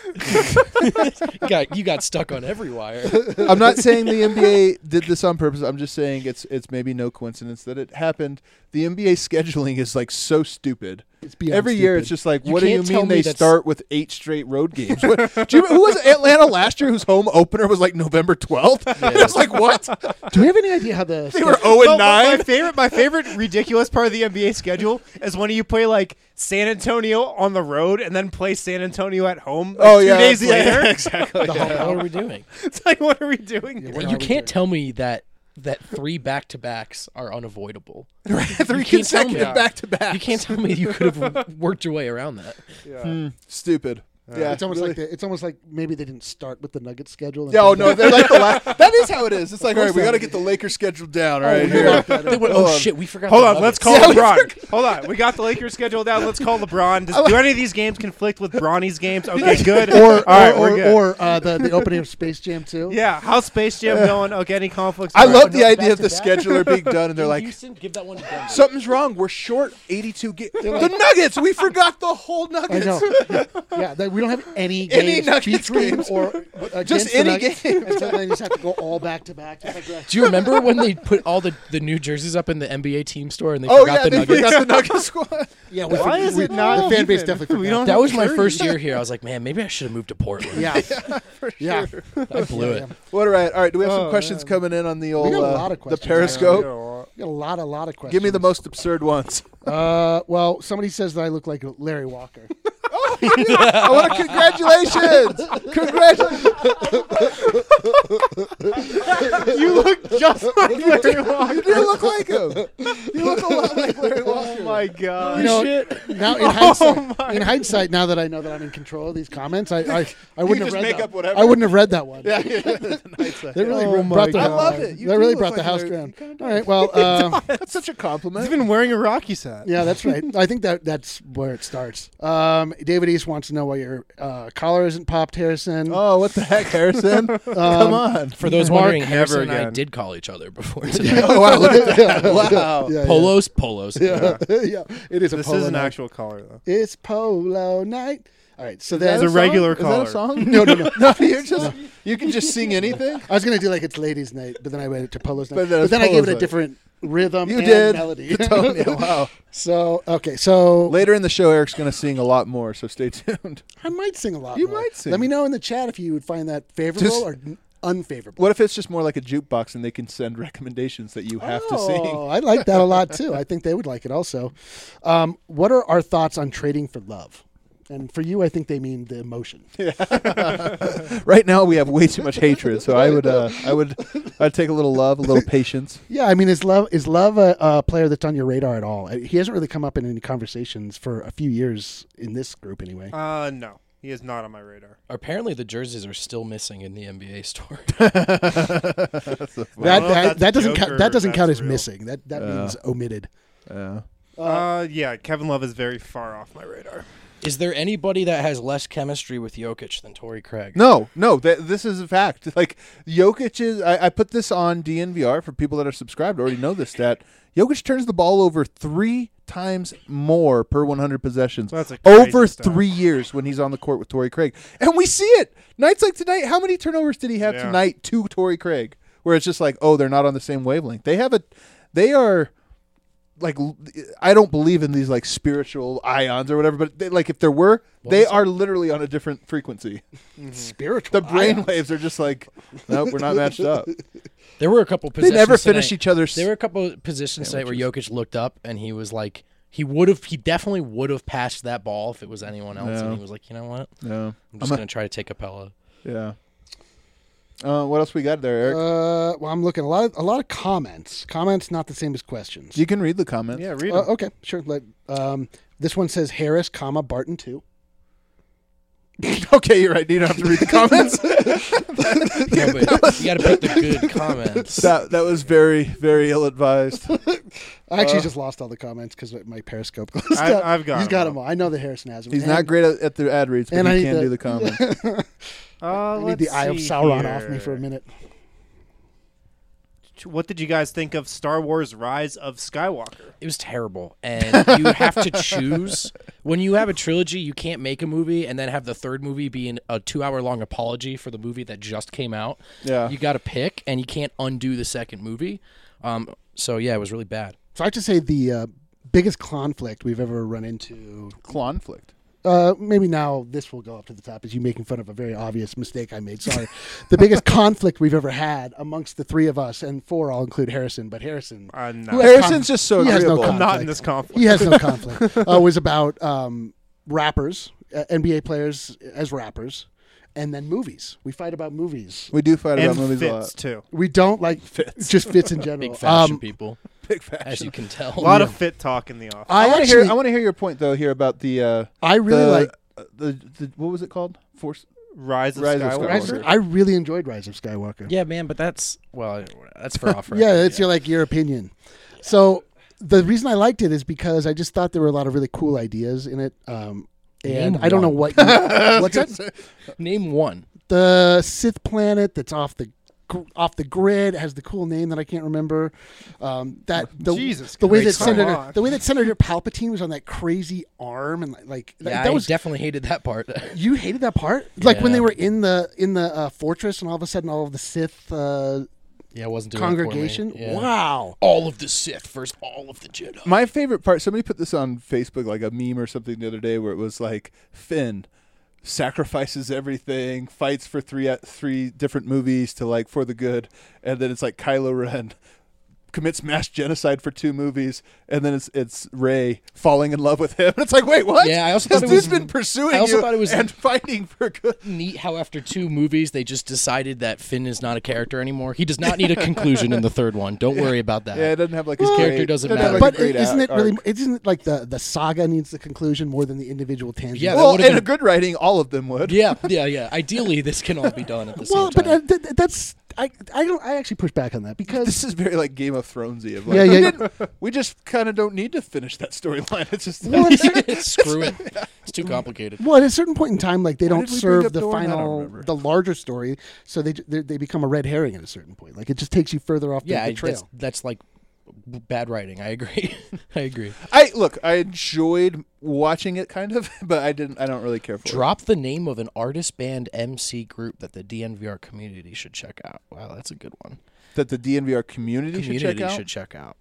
you got stuck on every wire. I'm not saying the NBA did this on purpose. I'm just saying it's maybe no coincidence that it happened. The NBA scheduling is like so stupid. It's beyond Every year, stupid. it's just like, You what do you can't tell mean me they that's- start with 8 straight road games? Who was Atlanta last year whose home opener was like November 12th? It's like, what? Do we have any idea how the They were schedule- 0 and 9. My favorite ridiculous part of the NBA schedule is when you play like San Antonio on the road and then play San Antonio at home. Like, Oh, 2 yeah, days yeah, later. exactly. What are we doing? It's like, what are we doing? Yeah, here? what are You we can't doing? tell me that 3 back-to-backs are unavoidable. 3 You can't tell me- consecutive back-to-backs. You can't tell me you could have worked your way around that. Stupid. Yeah, It's almost really. like it's almost like maybe they didn't start with the Nuggets schedule. and Yeah, oh came no, back- they're like the last. That is how it is. It's like, all right, we so. got to get the Lakers schedule down. All Oh, right, we here. locked that They up. went, Hold oh on. shit, we forgot. Hold the on, let's Nuggets." call Yeah, we LeBron. Hold on, we got the Lakers schedule down. Let's call LeBron. Do any of these games conflict with Bronny's games? Okay, good. All right, we're good. The opening of Space Jam 2. Yeah, how's Space Jam going? Okay, any conflicts? I All right. love the no, idea of the back-to-back. scheduler being done, and they're In like, Houston, give that one to Denver. something's wrong. We're short 82 games. The Nuggets. We forgot the whole I Nuggets. know. Yeah, we don't have any games Nuggets featuring games. or Just against the any Nuggets, game. and so they just have to go all back to back. Just like that. Do you remember when they put all the new jerseys up in the NBA team store and they Oh forgot yeah, the they Nuggets? forgot the Nuggets squad. Yeah, Why is it not the fan base even? definitely We forgot. don't That have was my jerseys. first year here. I was like, man, maybe I should have moved to Portland. Yeah, yeah. I blew it. What? All right. Do we have some Oh, questions man. coming in on the old got a lot of the questions. Periscope? We got a lot of questions. Give me the most absurd ones. Well, somebody says that I look like Larry Walker. I want to congratulations. You look just like Larry Walker. You do look like him. You look a lot like Larry Walker. Oh my god. You know, now in hindsight, now that I know that I'm in control of these comments, I wouldn't have just read make that. up whatever. I wouldn't have read that one. Yeah. They really Oh brought my the, God. I love it. You They do really look brought like the house Larry. down. You kinda All right, well, That's such a He's compliment. even wearing a Rockies hat. yeah, that's right. I think that's where it starts. David East wants to know why your collar isn't popped, Harrison. Oh, what the heck, Harrison? Come on. For those Mark, wondering, never Harrison and I again. did call each other before tonight. Oh, wow, look at that. Wow. Yeah, Polos. Yeah, yeah. It is a This polo is an night. actual collar though. It's polo night. All right, so It's then a regular Is that collar. a song? no. No, you're just you can just sing anything. I was gonna do like it's ladies' night, but then I went it to polo's night. But then But it's then I gave it polo's a night. different rhythm You and did. melody. You told me. Wow. So okay, so Later in the show, Eric's going to sing a lot more, so stay tuned. I might sing a lot. You more. might sing. Let me know in the chat if you would find that favorable Just- or unfavorable. What if it's just more like a jukebox and they can send recommendations that you have to sing? Oh, I like that a lot too. I think they would like it also. What are our thoughts on trading for love? And for you, I think they mean the emotion. Right now, we have way too much hatred, so I'd take a little love, a little patience. Yeah, I mean, is love a player that's on your radar at all? He hasn't really come up in any conversations for a few years in this group, anyway. No, he is not on my radar. Apparently, the jerseys are still missing in the NBA store. That doesn't joke count. or That doesn't count that's as real. missing. That means omitted. Yeah. Yeah, Kevin Love is very far off my radar. Is there anybody that has less chemistry with Jokic than Torrey Craig? No, this is a fact. Like, Jokic is. I put this on DNVR for people that are subscribed. Already know this stat. Jokic turns the ball over 3 times more per 100 possessions That's a crazy over stat. 3 years when he's on the court with Torrey Craig, and we see it nights like tonight. How many turnovers did he have Yeah. tonight to Torrey Craig? Where it's just like, oh, they're not on the same wavelength. They are. Like, I don't believe in these like spiritual ions or whatever, but like if there were, they are literally on a different frequency. Spiritual. The brain ions. waves are just like, nope, we're not matched up. There were a couple They positions never finish tonight- each other's. There were a couple of positions tonight where Jokic looked up and he was like, he definitely would have passed that ball if it was anyone else, Yeah. and he was like, you know what, Yeah, I'm just gonna try to take Capella. yeah. What else we got there, Eric? Well, I'm looking a lot of comments. Comments not the same as questions. You can read the comments. Yeah, read 'em. Okay, sure. This one says Harris, Barton 2. Okay, you're right. You don't have to read the comments. No, but you got to pick the good comments. that was very, very ill advised. I actually just lost all the comments because my Periscope closed I- out. I've got He's 'em got all. them all. I know that Harrison has them. He's not great at the ad reads, but and I he need can to- do the comments. I need Let's the Eye of see Sauron here. off me for a minute. What did you guys think of Star Wars: Rise of Skywalker? It was terrible, and you have to choose. When you have a trilogy, you can't make a movie and then have the third movie be a 2-hour-long apology for the movie that just came out. Yeah. You got to pick, and you can't undo the second movie. So yeah, it was really bad. So I have to say the biggest conflict we've ever run into. Conflict. Maybe now this will go up to the top as you making fun of a very obvious mistake I made. Sorry. The biggest conflict we've ever had amongst the three of us, and 4 I'll include Harrison, but Harrison. No. Who has Harrison's just so he has no agreeable. I'm not conflict. in this conflict. He has no conflict. Was about rappers, NBA players as rappers, and then movies. We fight about movies. We do fight and about movies a fits lot. too. We don't like Fits. just fits in general. Big fashion people, Big fashion. as you can tell. A lot of fit talk in the office. I want to actually, hear. I want to hear your point though here about the. I really like. the what was it called? Force. Rise of Rise of Skywalker. Skywalker. I really enjoyed Rise of Skywalker. Yeah, man, but that's for off. Yeah, it's your opinion. So the reason I liked it is because I just thought there were a lot of really cool ideas in it. And Name I don't know one. what. What's that? Name one. The Sith planet that's off the grid has the cool name that I can't remember. Jesus the way that Christ, come Senator on. the way that Senator Palpatine was on that crazy arm and Yeah, that I was. definitely hated that part. You hated that part, like when Yeah. they were in the fortress, and all of a sudden all of the Sith Yeah, it wasn't doing it for me. congregation. Yeah. Wow. All of the Sith versus all of the Jedi. My favorite part. Somebody put this on Facebook, like a meme or something, the other day, where it was like Finn sacrifices everything, fights for three different movies to like for the good, and then it's like Kylo Ren commits mass genocide for 2 movies, and then it's Rey falling in love with him. And it's like, wait, what? Yeah, I also this thought it dude's was- been pursuing I also you thought it was- and fighting for good. Neat how after 2 movies they just decided that Finn is not a character anymore. He does not need a conclusion in the third one. Don't worry about that. Yeah, it doesn't have like His a character great- doesn't doesn't have, matter. like, a But great isn't it really? arc. Isn't it like the saga needs the conclusion more than the individual tangents? Yeah, that Well, would've in been- a good writing, all of them would. Yeah. Ideally, this can all be done at the same Well, time. but that's I don't. I actually push back on that because This is very like Game of Thronesy. Of like, Yeah. we just kind of don't need to finish that storyline. It's just Well, Screw it. It's too complicated. well, at a certain point in time, like they Why don't did we bring serve up the Dorne? I don't final, remember. the larger story, so they become a red herring at a certain point. Like it just takes you further off Yeah, the trail. that's like bad writing. I agree. I agree. I enjoyed watching it kind of, but I don't really care for it. Drop the name of an artist band MC group that the DNVR community should check out. Wow, that's a good one. That the DNVR community should check out.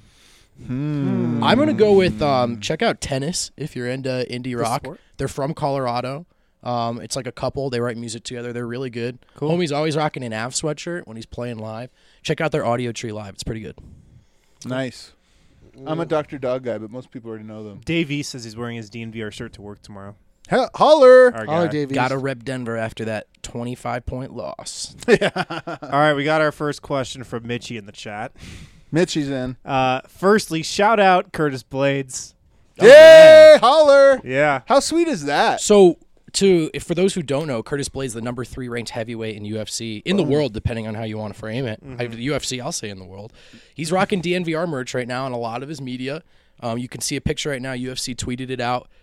I'm gonna go with check out Tennis if you're into indie rock. sport? They're from Colorado. It's like a couple. They write music together. They're really good. Cool. Homie's always rocking an Av sweatshirt when he's playing live. Check out their Audio Tree live. It's pretty good. Nice. I'm a Dr. Dog guy, but most people already know them. Dave E says he's wearing his DNVR shirt to work tomorrow. Holler! Our Holler, guy. Davies. Gotta rep Denver after that 25-point loss. All right, we got our first question from Mitchie in the chat. Mitchie's in. Firstly, shout out Curtis Blades. Yay! Holler! Yeah. How sweet is that? So, for those who don't know, Curtis Blades, the number 3 ranked heavyweight in UFC in the world, depending on how you want to frame it. The UFC, I'll say in the world. He's rocking DNVR merch right now on a lot of his media. You can see a picture right now. UFC tweeted it out.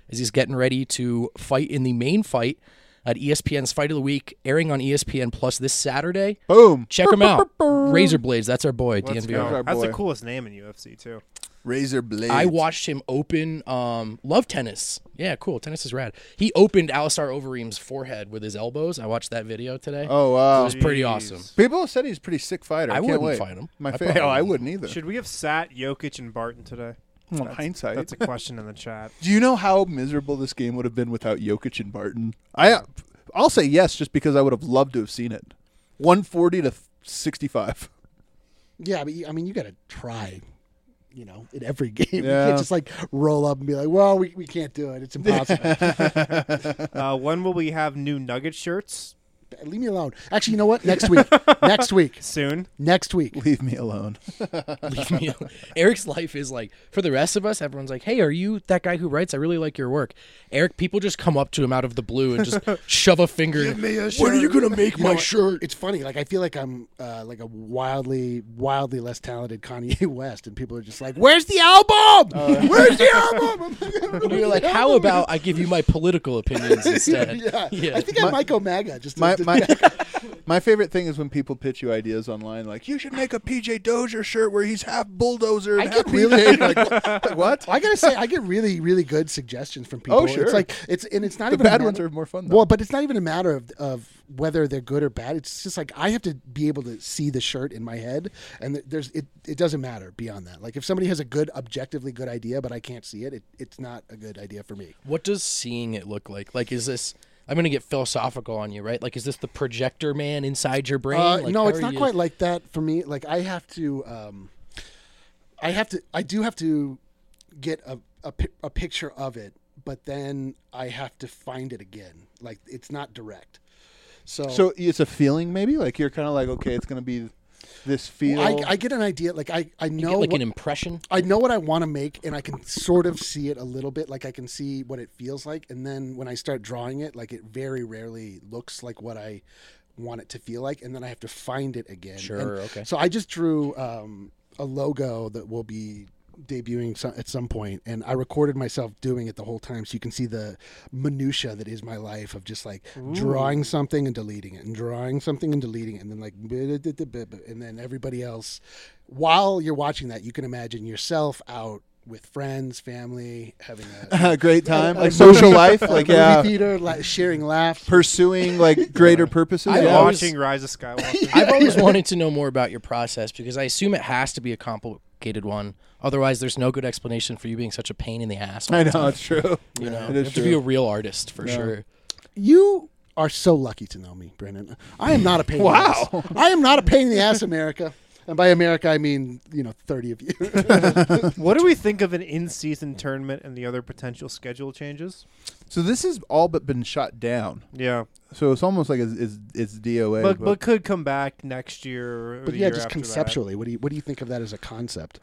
as he's getting ready to fight in the main fight at ESPN's Fight of the Week, airing on ESPN Plus this Saturday. Boom. Check him out. Razor Blades, that's our boy, Let's DNVR. go. Our That's the boy. coolest name in UFC too. Razor blades. I watched him open. Love tennis. Yeah, cool. Tennis is rad. He opened Alistar Overeem's forehead with his elbows. I watched that video today. Oh It wow. was pretty Jeez. awesome. People said he's a pretty sick fighter. I can't wouldn't wait. fight him. My I favorite. probably I wouldn't either. Should we have sat Jokic and Barton today? Well, hindsight. That's a question in the chat. Do you know how miserable this game would have been without Jokic and Barton? I'll say yes, just because I would have loved to have seen it. 140 to 65. Yeah, but I mean, you got to try. In every game, you Yeah. can't just like roll up and be like, "Well, we can't do it. It's impossible." When will we have new Nugget shirts? Leave me alone. Actually, you know what? Next week. Next week. Soon. Next week. Leave me alone. Leave me alone. Eric's life is like, for the rest of us, everyone's like, hey, are you that guy who writes? I really like your work. Eric, people just come up to him out of the blue and just shove a finger. When are you going to make my shirt? It's funny. Like I feel like I'm like a wildly less talented Kanye West, and people are just like, "Where's the album? Where's the album?" And you're like, how about I give you my political opinions instead? Yeah. I think I might go MAGA. Just to, My favorite thing is when people pitch you ideas online, like you should make a PJ Dozier shirt where he's half bulldozer and I half get really- PJ. Like, what? I gotta say, I get really, really good suggestions from people. Oh, sure. It's like it's not The even a bad matter- ones are more fun, though. Well, but it's not even a matter of whether they're good or bad. It's just like I have to be able to see the shirt in my head, and it doesn't matter beyond that. Like if somebody has a good, objectively good idea, but I can't see it, it's not a good idea for me. What does seeing it look like? Like, is this... I'm going to get philosophical on you, right? Like, is this the projector man inside your brain? Like, No, how it's are not you- quite like that for me. Like I do have to get a picture of it, but then I have to find it again. Like it's not direct. So it's a feeling, maybe. Like you're kind of like, okay, it's going to be this feel. I get an idea. Like I You know get like what, an impression? I know what I want to make, and I can sort of see it a little bit. Like I can see what it feels like, and then when I start drawing it, like it very rarely looks like what I want it to feel like, and then I have to find it again. Sure, And okay. So I just drew a logo that will be debuting at some point, and I recorded myself doing it the whole time, so you can see the minutia that is my life of just like drawing something and deleting it, and drawing something and deleting it, and then like, and then everybody else. While you're watching that, you can imagine yourself out with friends, family, having a great time, a like social life, a like movie theater, sharing laughs. pursuing like greater purposes. I yeah. always- Watching Rise of Skywalker. I've always wanted to know more about your process because I assume it has to be a complicated one. Otherwise, there's no good explanation for you being such a pain in the ass. all I the know time. it's true. You know, It you is have to true. be a real artist for Yeah. sure. You are so lucky to know me, Brendan. I am not a pain in the ass. I am not a pain in the ass, America. And by America, I mean, 30 of you. What do we think of an in-season tournament and the other potential schedule changes? So this has all but been shot down. Yeah, So it's almost like it's DOA. but could come back next year. Or But the yeah, year just after that. conceptually, what do you think of that as a concept?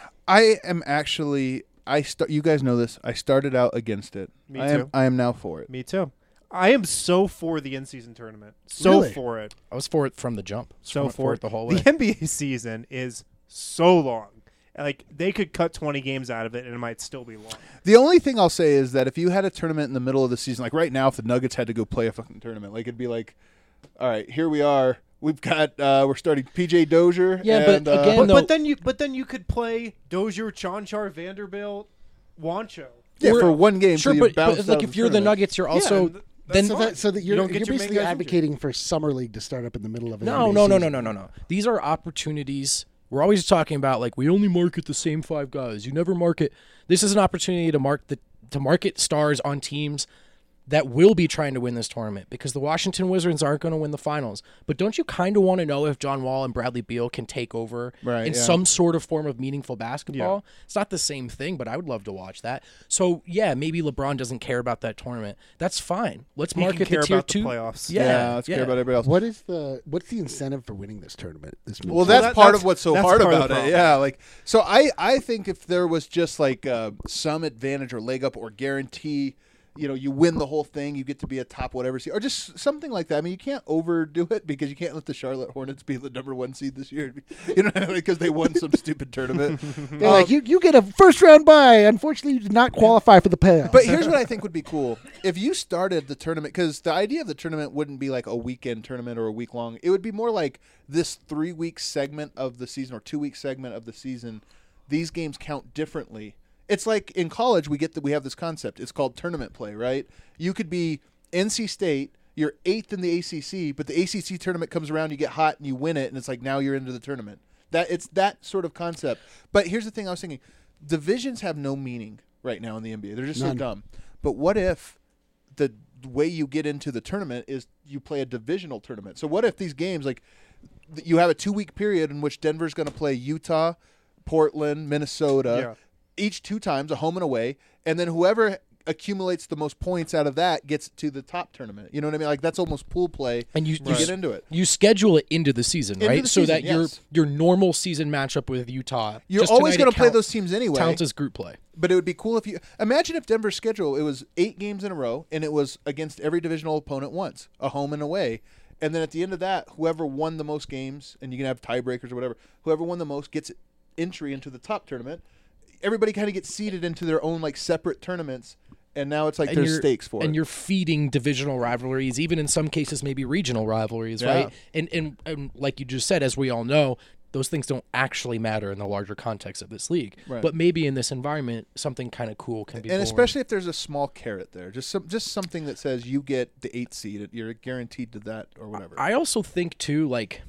I am actually. You guys know this. I started out against it. Me I am. too. I am now for it. Me too. I am so for the in-season tournament. So Really? for it. I was for it from the jump. So for for it the whole The way. NBA season is so long. Like they could cut 20 games out of it and it might still be long. The only thing I'll say is that if you had a tournament in the middle of the season, like right now, if the Nuggets had to go play a fucking tournament, like it'd be like, all right, here we are. We've got we're starting PJ Dozier. Yeah, but and, again, But, no. but then you could play Dozier, Chanchar, Vanderbilt, Wancho. yeah, Or- for one game. Sure, so but, bounce but like out if of you're the tournament. Nuggets, you're also and that's then fine. So that You you're don't get your main basically guys injured. advocating for summer league to start up in the middle of an No, NBA no, no, season. no, no, no, no. These are opportunities. We're always talking about like we only market the same 5 guys. You never market. This is an opportunity to market stars on teams that will be trying to win this tournament because the Washington Wizards aren't going to win the finals. But don't you kind of want to know if John Wall and Bradley Beal can take over Right, in yeah. some sort of form of meaningful basketball? It's not the same thing, but I would love to watch that. So, yeah, maybe LeBron doesn't care about that tournament. That's fine. Let's He can market care the tier about 2 the playoffs. Yeah, let's care about everybody else. What's the incentive for winning this tournament? Well, that's part of what's so that's hard part of the about it. problem. Yeah, like so I think if there was just like some advantage or leg up or guarantee, you win the whole thing, you get to be a top whatever seed, or just something like that. I mean, you can't overdo it because you can't let the Charlotte Hornets be the number 1 seed this year, because they won some stupid tournament. They're like, you get a first-round bye. Unfortunately, you did not qualify for the playoffs. But here's what I think would be cool. If you started the tournament, because the idea of the tournament wouldn't be like a weekend tournament or a week long. It would be more like this 3-week segment of the season or 2-week segment of the season. These games count differently. It's like in college, we have this concept. It's called tournament play, right? You could be NC State, you're 8th in the ACC, but the ACC tournament comes around, you get hot and you win it, and it's like now you're into the tournament. It's that sort of concept. But here's the thing I was thinking. Divisions have no meaning right now in the NBA. They're just so dumb. But what if the way you get into the tournament is you play a divisional tournament? So what if these games, like you have a 2-week period in which Denver's going to play Utah, Portland, Minnesota, each 2 times, a home and away, and then whoever accumulates the most points out of that gets to the top tournament. You know what I mean? Like that's almost pool play. And you get into it. You schedule it into the season, right? So that your normal season matchup with Utah. You're always going to play those teams anyway. Counts as group play. But it would be cool if you imagine if Denver's schedule it was 8 games in a row and it was against every divisional opponent once, a home and away. And then at the end of that, whoever won the most games, and you can have tiebreakers or whatever, whoever won the most gets entry into the top tournament. Everybody kind of gets seeded into their own like separate tournaments, and now it's like there's stakes for it. And you're feeding divisional rivalries, even in some cases maybe regional rivalries, right? And like you just said, as we all know, those things don't actually matter in the larger context of this league. Right. But maybe in this environment, something kind of cool can be born. Especially if there's a small carrot there, just something that says you get the 8th seed, you're guaranteed to that or whatever. I also think too, like,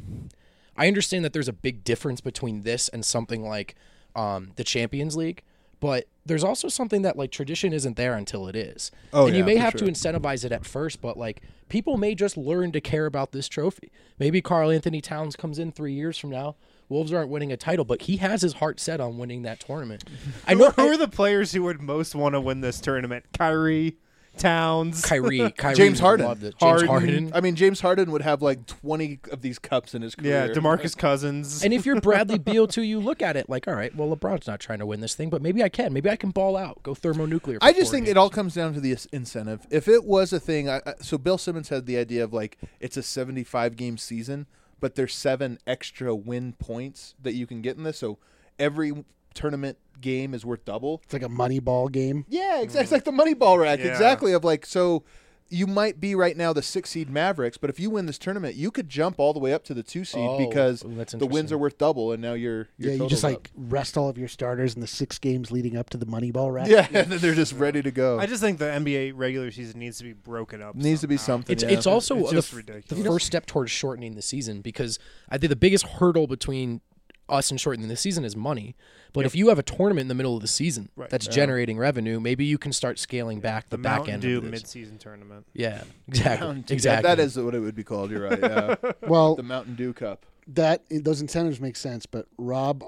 I understand that there's a big difference between this and something like the Champions League, but there's also something that like tradition isn't there until it is. And you may have to incentivize it at first, but like people may just learn to care about this trophy. Maybe Karl Anthony Towns comes in 3 years from now. Wolves aren't winning a title, but he has his heart set on winning that tournament. I know who are the players who would most want to win this tournament? Kyrie, Towns, Kyrie James Harden. James Harden. I mean, James Harden would have like 20 of these cups in his career. Yeah, DeMarcus Cousins. And if you're Bradley Beal too, you look at it like, all right, well, LeBron's not trying to win this thing, but maybe I can. Maybe I can ball out, go thermonuclear. I just think it all comes down to the incentive. If it was a thing, so Bill Simmons had the idea of like it's a 75-game season, but there's 7 extra win points that you can get in this. So every tournament game is worth double. It's like a money ball game. Yeah, exactly. It's like the money ball rack. Yeah. Exactly. Of like, so you might be right now the 6 seed Mavericks, but if you win this tournament, you could jump all the way up to the 2 seed because the wins are worth double, and now you're you just like rest all of your starters in the 6 games leading up to the money ball rack. Yeah, and then they're just ready to go. I just think the NBA regular season needs to be broken up. Needs to be something. It's also just the first step towards shortening the season, because I think the biggest hurdle between us and shortening the season is money. But if you have a tournament in the middle of the season that's generating revenue, maybe you can start scaling back the back end of this. mid-season tournament. Yeah, exactly. That is what it would be called. You're right. Yeah. Well, the Mountain Dew Cup. Those incentives make sense, but Rob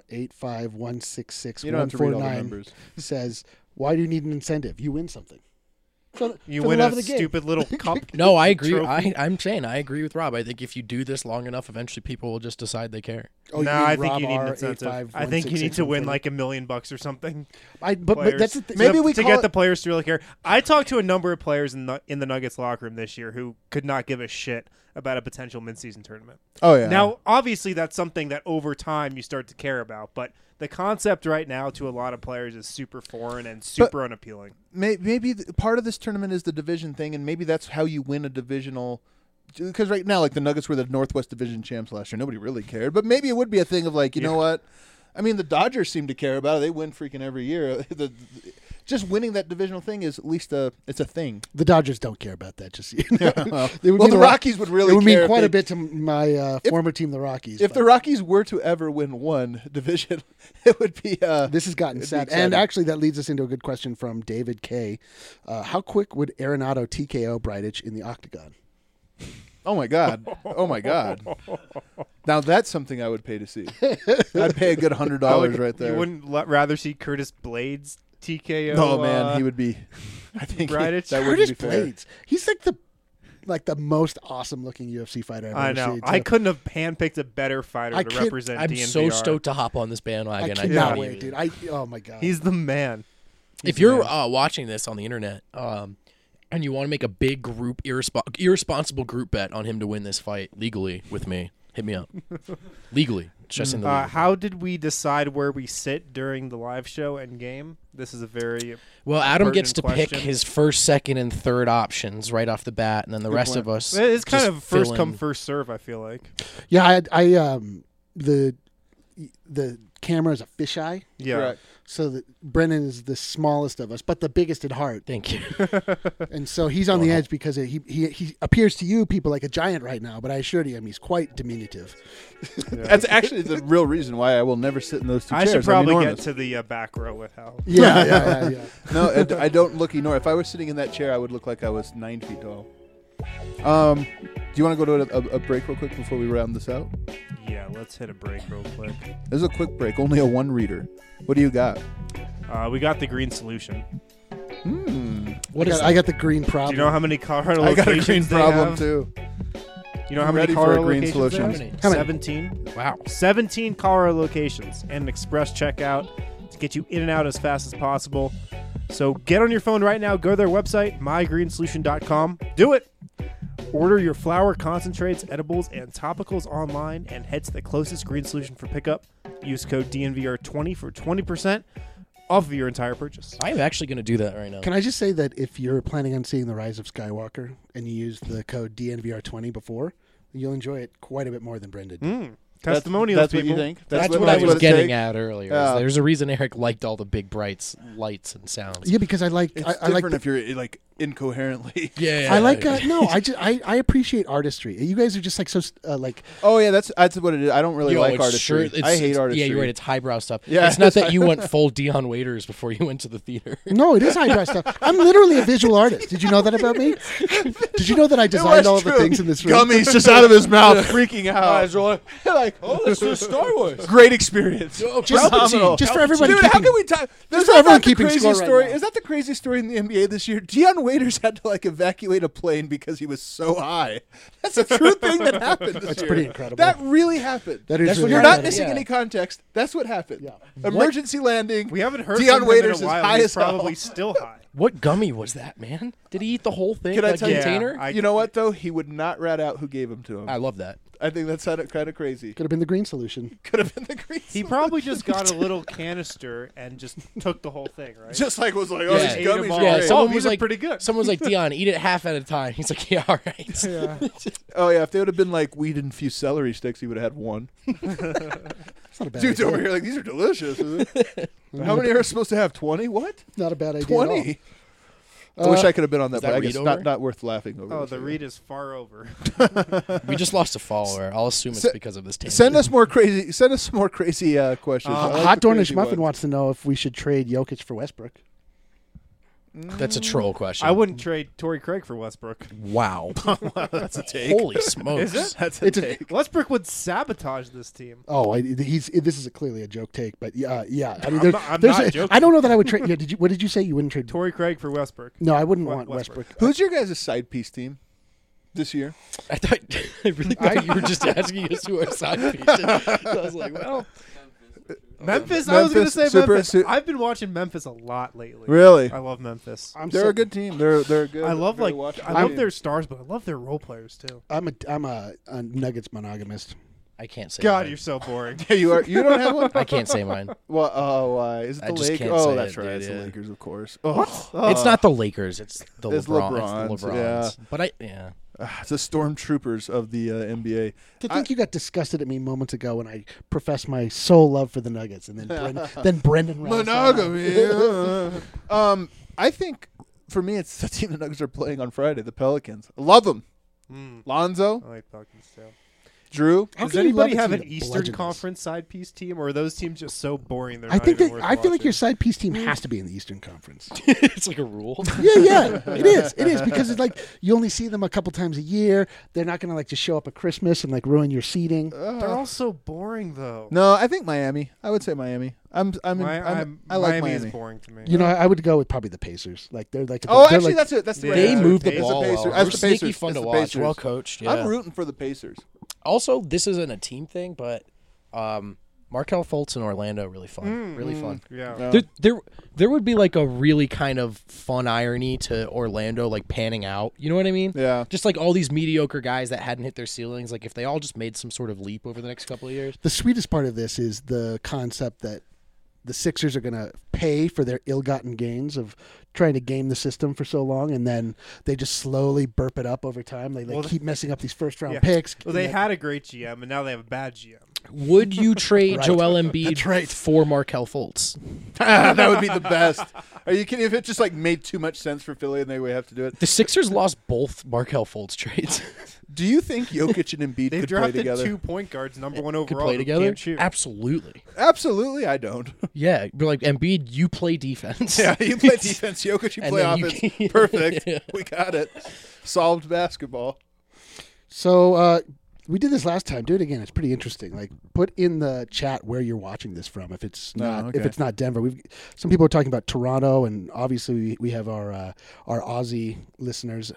R85166 says, "Why do you need an incentive? You win something. You win a stupid little cup." No, I agree. I'm saying I agree with Rob. I think if you do this long enough, eventually people will just decide they care. No, I think you need an incentive. I think you need to win like $1 million or something. But that's the thing. Maybe to get the players to really care. I talked to a number of players in the Nuggets locker room this year who could not give a shit about a potential mid-season tournament. Oh yeah. Now, obviously, that's something that over time you start to care about, but the concept right now to a lot of players is super foreign and super unappealing. Maybe part of this tournament is the division thing, and maybe that's how you win a divisional. Because right now, like the Nuggets were the Northwest Division champs last year, nobody really cared. But maybe it would be a thing of like, you know what? I mean, the Dodgers seem to care about it. They win freaking every year. Just winning that divisional thing is at least it's a thing. The Dodgers don't care about that. Just well, the Rockies would really. It would care mean quite a bit to my former team, the Rockies. If the Rockies were to ever win one division, it would be. This has gotten sad, and actually that leads us into a good question from David K. How quick would Arenado TKO Bridich in the octagon? Oh my God! Oh my God! Now that's something I would pay to see. I'd pay a good $100 right there. You wouldn't rather see Curtis Blades TKO? Oh man, he would be. I think Bridich. That would Curtis be fair. Blades. He's like the most awesome looking UFC fighter I've ever know. seen. I couldn't have handpicked a better fighter to represent I'm DNVR. so stoked to hop on this bandwagon. I cannot wait, dude. Oh my God. He's the man. If you're watching this on the internet, and you want to make a big group irresponsible group bet on him to win this fight legally with me, hit me up. Legally, just in the legal. How did we decide where we sit during the live show and game? This is a very Well, Adam gets to pertinent pick question. his first, second, and third options right off the bat, and then the rest of us. It's kind just of first fill come in. first serve. I feel like. Yeah, the camera is a fisheye, Yeah. Correct. so that Brennan is the smallest of us, but the biggest at heart, Thank you. and so he's on the edge because he appears to you people like a giant right now. But I assure you, he's quite diminutive. That's actually the real reason why I will never sit in those two I chairs. should probably I'm get enormous. to the back row with Hal. Yeah. No, I don't look enormous. If I was sitting in that chair, I would look like I was 9 feet tall. Do you want to go to a break real quick before we round this out? Yeah, let's hit a break real quick. This is a quick break. Only a one reader. What do you got? We got the green solution. What is I got the green Do problem. you know how many Colorado I got a locations green they problem have? too. You know how I'm many ready for a Colorado green locations solution. there are? How many? 17. Wow. 17 Colorado locations and an express checkout to get you in and out as fast as possible. So get on your phone right now. Go to their website, mygreensolution.com. Do it. Order your flower concentrates, edibles, and topicals online and head to the closest green solution for pickup. Use code DNVR20 for 20% off of your entire purchase. I am actually going to do that right now. Can I just say that if you're planning on seeing The Rise of Skywalker and you use the code DNVR20 before, you'll enjoy it quite a bit more than Brendan did. Testimonials, That's what people. you think? That's what I was it getting takes? at earlier. Yeah. There's a reason Eric liked all the big brights, lights, and sounds. Yeah, because I like It's I like different if you're like incoherently. Yeah. I like no. I appreciate artistry. You guys are just like so like Oh yeah, that's what it is. I don't really like it's artistry. sure- I hate artistry. Yeah, you're right. It's highbrow stuff. Yeah, It's not it's that you went full Dion Waiters before you went to the theater. no, it is highbrow stuff. I'm literally a visual artist. Did you know that about me? Did you know that I designed all of the things in this room? Gummy's just out of his mouth, freaking out. Like, Oh, this is Star Wars. great experience. Just for everybody Dude, how keeping- can we talk? There's for everyone not the keeping crazy score right story. now. Is that the crazy story in the NBA this year? Dion Waiters had to like evacuate a plane because he was so high. That's a true thing that happened this That's year. pretty incredible. That really happened. That is That's really what You're Yeah. not incredible. missing Yeah. any context. That's what happened. Yeah. Emergency landing. We haven't heard Dion from Waiters him in a is while. high He's as hell. probably still high. What gummy was that, man? Did he eat the whole thing? Can I like tell you- container? Yeah, You know what though? He would not rat out who gave him to him. I love that. I think that sounded kind of crazy. Could have been the green solution. Could have been the green. He probably just got a little canister and just took the whole thing, right? just like was like, oh, Yeah. these Ate 'em gummies all. are Yeah, great. someone these was are like, pretty good. Someone's like, Dion, eat it half at a time. He's like, yeah, all right. Yeah. Oh yeah, if they would have been like weed infused celery sticks, he would have had one. It's not a bad Dude's idea. over here like these are delicious. How many are supposed to have? 20? What? Not a bad idea. At all. 20? I wish I could have been on that, is but that I guess Reed not, over? not worth laughing over. Oh, this. the read is far over. We just lost a follower. I'll assume it's Se- because of this tangent. Send us more crazy. Send us some more crazy questions. I like Hot the Dornish crazy Muffin ones. wants to know if we should trade Jokic for Westbrook. That's a troll question. I wouldn't trade Torrey Craig for Westbrook. Wow. That's a take. Holy smokes. Is it? That's a It's a- take. Westbrook would sabotage this team. Oh, this is clearly a joke take, but yeah. I mean, I'm there's not a- joking. I don't know that I would trade. Yeah, what did you say? You wouldn't trade? Torrey Craig for Westbrook. No, I wouldn't Wa- want Westbrook. Westbrook. Who's your guys' side piece team this year? I really thought you were just asking us who our side piece is. I was like, well, Memphis. I was going to say Super- Memphis. su- I've been watching Memphis a lot lately. Really? I love Memphis. They're a good team. They're good. I love very like watchable I love team. their stars, but I love their role players too. I'm a Nuggets monogamist. I can't say God, mine. you're so boring. Yeah, you are. You don't have one. I can't say mine. Well, oh, why? Is it I the just Lakers? can't Oh, say that's it, right. dude, It's the yeah. Lakers, of course. Oh, It's not the Lakers. It's the It's LeBron. It's the LeBrons, LeBrons. yeah. But yeah. It's the stormtroopers of the NBA. To think you got disgusted at me moments ago when I professed my sole love for the Nuggets, and then Brendan rounds that out. I think for me, it's the team the Nuggets are playing on Friday. The Pelicans. I love them. Lonzo, I like Pelicans too. Drew. How Does can you love anybody a have team an that Eastern bludgeons us? Conference side piece team, or are those teams just so boring? They're I not think even that worth I feel like watching? your side piece team has to be in the Eastern Conference. It's like a rule. Yeah, it is because it's like you only see them a couple times a year. They're not gonna like just show up at Christmas and like ruin your seating. They're all so boring though. No, I think Miami. I would say Miami. I like Miami Miami. is boring to me. You know, I would go with probably the Pacers. Like they're like Oh, they're actually, like, that's it. That's the Yeah. right They answer. move the It's ball Pacers. well. That's They're the sneaky Pacers. fun It's to the watch. Pacers. Well coached. Yeah. I'm rooting for the Pacers. Also, this isn't a team thing, but Markelle Fultz in Orlando, really fun. Really fun. Yeah. There would be like a really kind of fun irony to Orlando like panning out. You know what I mean? Yeah. Just like all these mediocre guys that hadn't hit their ceilings, like if they all just made some sort of leap over the next couple of years. The sweetest part of this is the concept that the Sixers are going to pay for their ill-gotten gains of trying to game the system for so long, and then they just slowly burp it up over time. They keep messing up these first-round picks. Well, they had a great GM, and now they have a bad GM. Would you trade Right. Joel Embiid That's right. for Markelle Fultz? That would be the best. Are you kidding? If it just like made too much sense for Philly and they would have to do it. The Sixers lost both Markelle Fultz trades. Do you think Jokic and Embiid They've could play drafted together? 2 point guards, number one Could overall. play who together? can't shoot. Absolutely. Absolutely, I don't. Yeah, but like Embiid, you play defense. Yeah, you play defense, Jokic, you And play then you offense. can- Perfect. Yeah. We got it. Solved basketball. So we did this last time. Do it again. It's pretty interesting. Like, put in the chat where you're watching this from. If it's not, okay. if it's not Denver, some people are talking about Toronto, and obviously we have our Aussie listeners.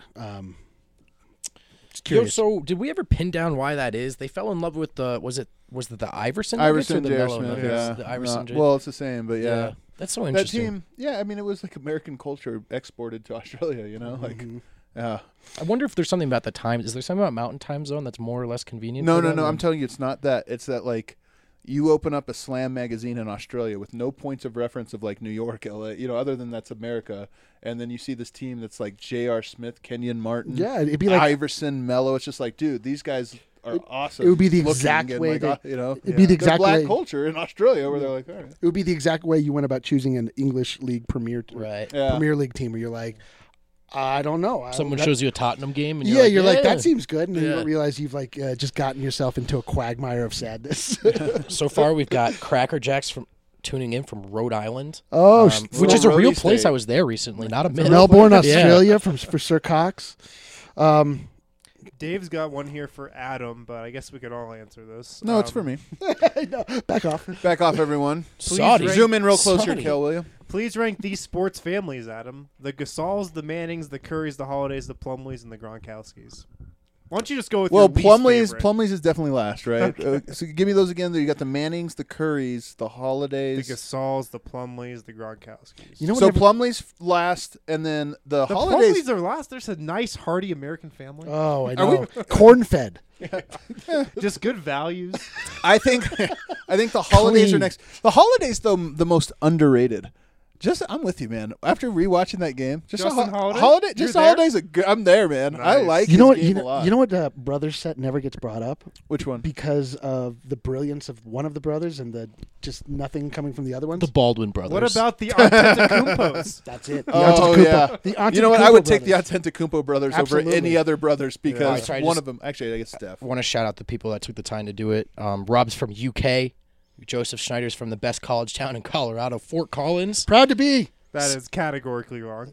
Just Yo, curious. so did we ever pin down why that is? They fell in love with the was it the Iverson Nuggets or Iverson, the J.R. Melo Smith, Nuggets? yeah. The Iverson. J- Well, it's the same, but yeah. That's so That interesting. team, yeah, I mean, it was like American culture exported to Australia, you know? Like, yeah. I wonder if there's something about the time. Is there something about Mountain Time Zone that's more or less convenient? No, for no, them? no. I'm telling you, it's not that. It's that, like, you open up a Slam magazine in Australia with no points of reference of, like, New York, LA, you know, other than that's America. And then you see this team that's like J.R. Smith, Kenyon Martin, Yeah, it'd be like Iverson, Melo. It's just like, dude, these guys are awesome. it would be the looking exact and, way like, that- you know, it'd be the there's exact black way. culture in Australia where they're like, all right. It would be the exact way you went about choosing an English League Premier Right. Yeah. Premier League team, where you're like, I don't know. Someone that- shows you a Tottenham game, and Yeah, you're like, that seems good, and then you Yeah. don't realize you've like just gotten yourself into a quagmire of sadness. So far, we've got Cracker Jacks from tuning in from Rhode Island, Oh, which is a Rhode real Island place. State. I was there recently, not a myth. Melbourne, Yeah. Australia, for Sir Cox. Dave's got one here for Adam, but I guess we could all answer this. No, it's for me. No, back off. Back off, everyone. Saudi. rank- Zoom in real close here, Saudi. Kel, will you? Please rank these sports families, Adam. The Gasols, the Mannings, the Currys, the Holidays, the Plumleys, and the Gronkowskis. Why don't you just go with Well, your least favorite? Plumlee's is definitely last, right? So give me those again. You got the Mannings, the Currys, the The Holidays. Gasols, the Plumleys, the Gronkowskis. You know what? So every- Plumlee's last, and then the the Holidays. Plumleys are last. There's a nice, hearty American family. Oh, I Are we- know. Corn fed. Just good values. I think the Holidays are Clean. next. The Holidays, though, the most underrated. I'm with you, man. After rewatching that game, Justin Holiday? just You're the there? Holidays. I'm there, man. I Nice. like You know his what? game a lot. You know what? Brothers set never gets brought up Which one? because of the brilliance of one of the brothers and the just nothing coming from the other ones. The Baldwin brothers. What about the Antetokounmpos? That's it. The Oh, Antetokounmpo- yeah. The You know what? I would take the brothers. Antetokounmpo brothers Absolutely. over any other brothers because Sorry, one just- of them. Actually, I guess Steph. I want to shout out the people that took the time to do it. Rob's from UK. Joseph Schneider's from the best college town in Colorado, Fort Collins. Proud to be. That is categorically wrong.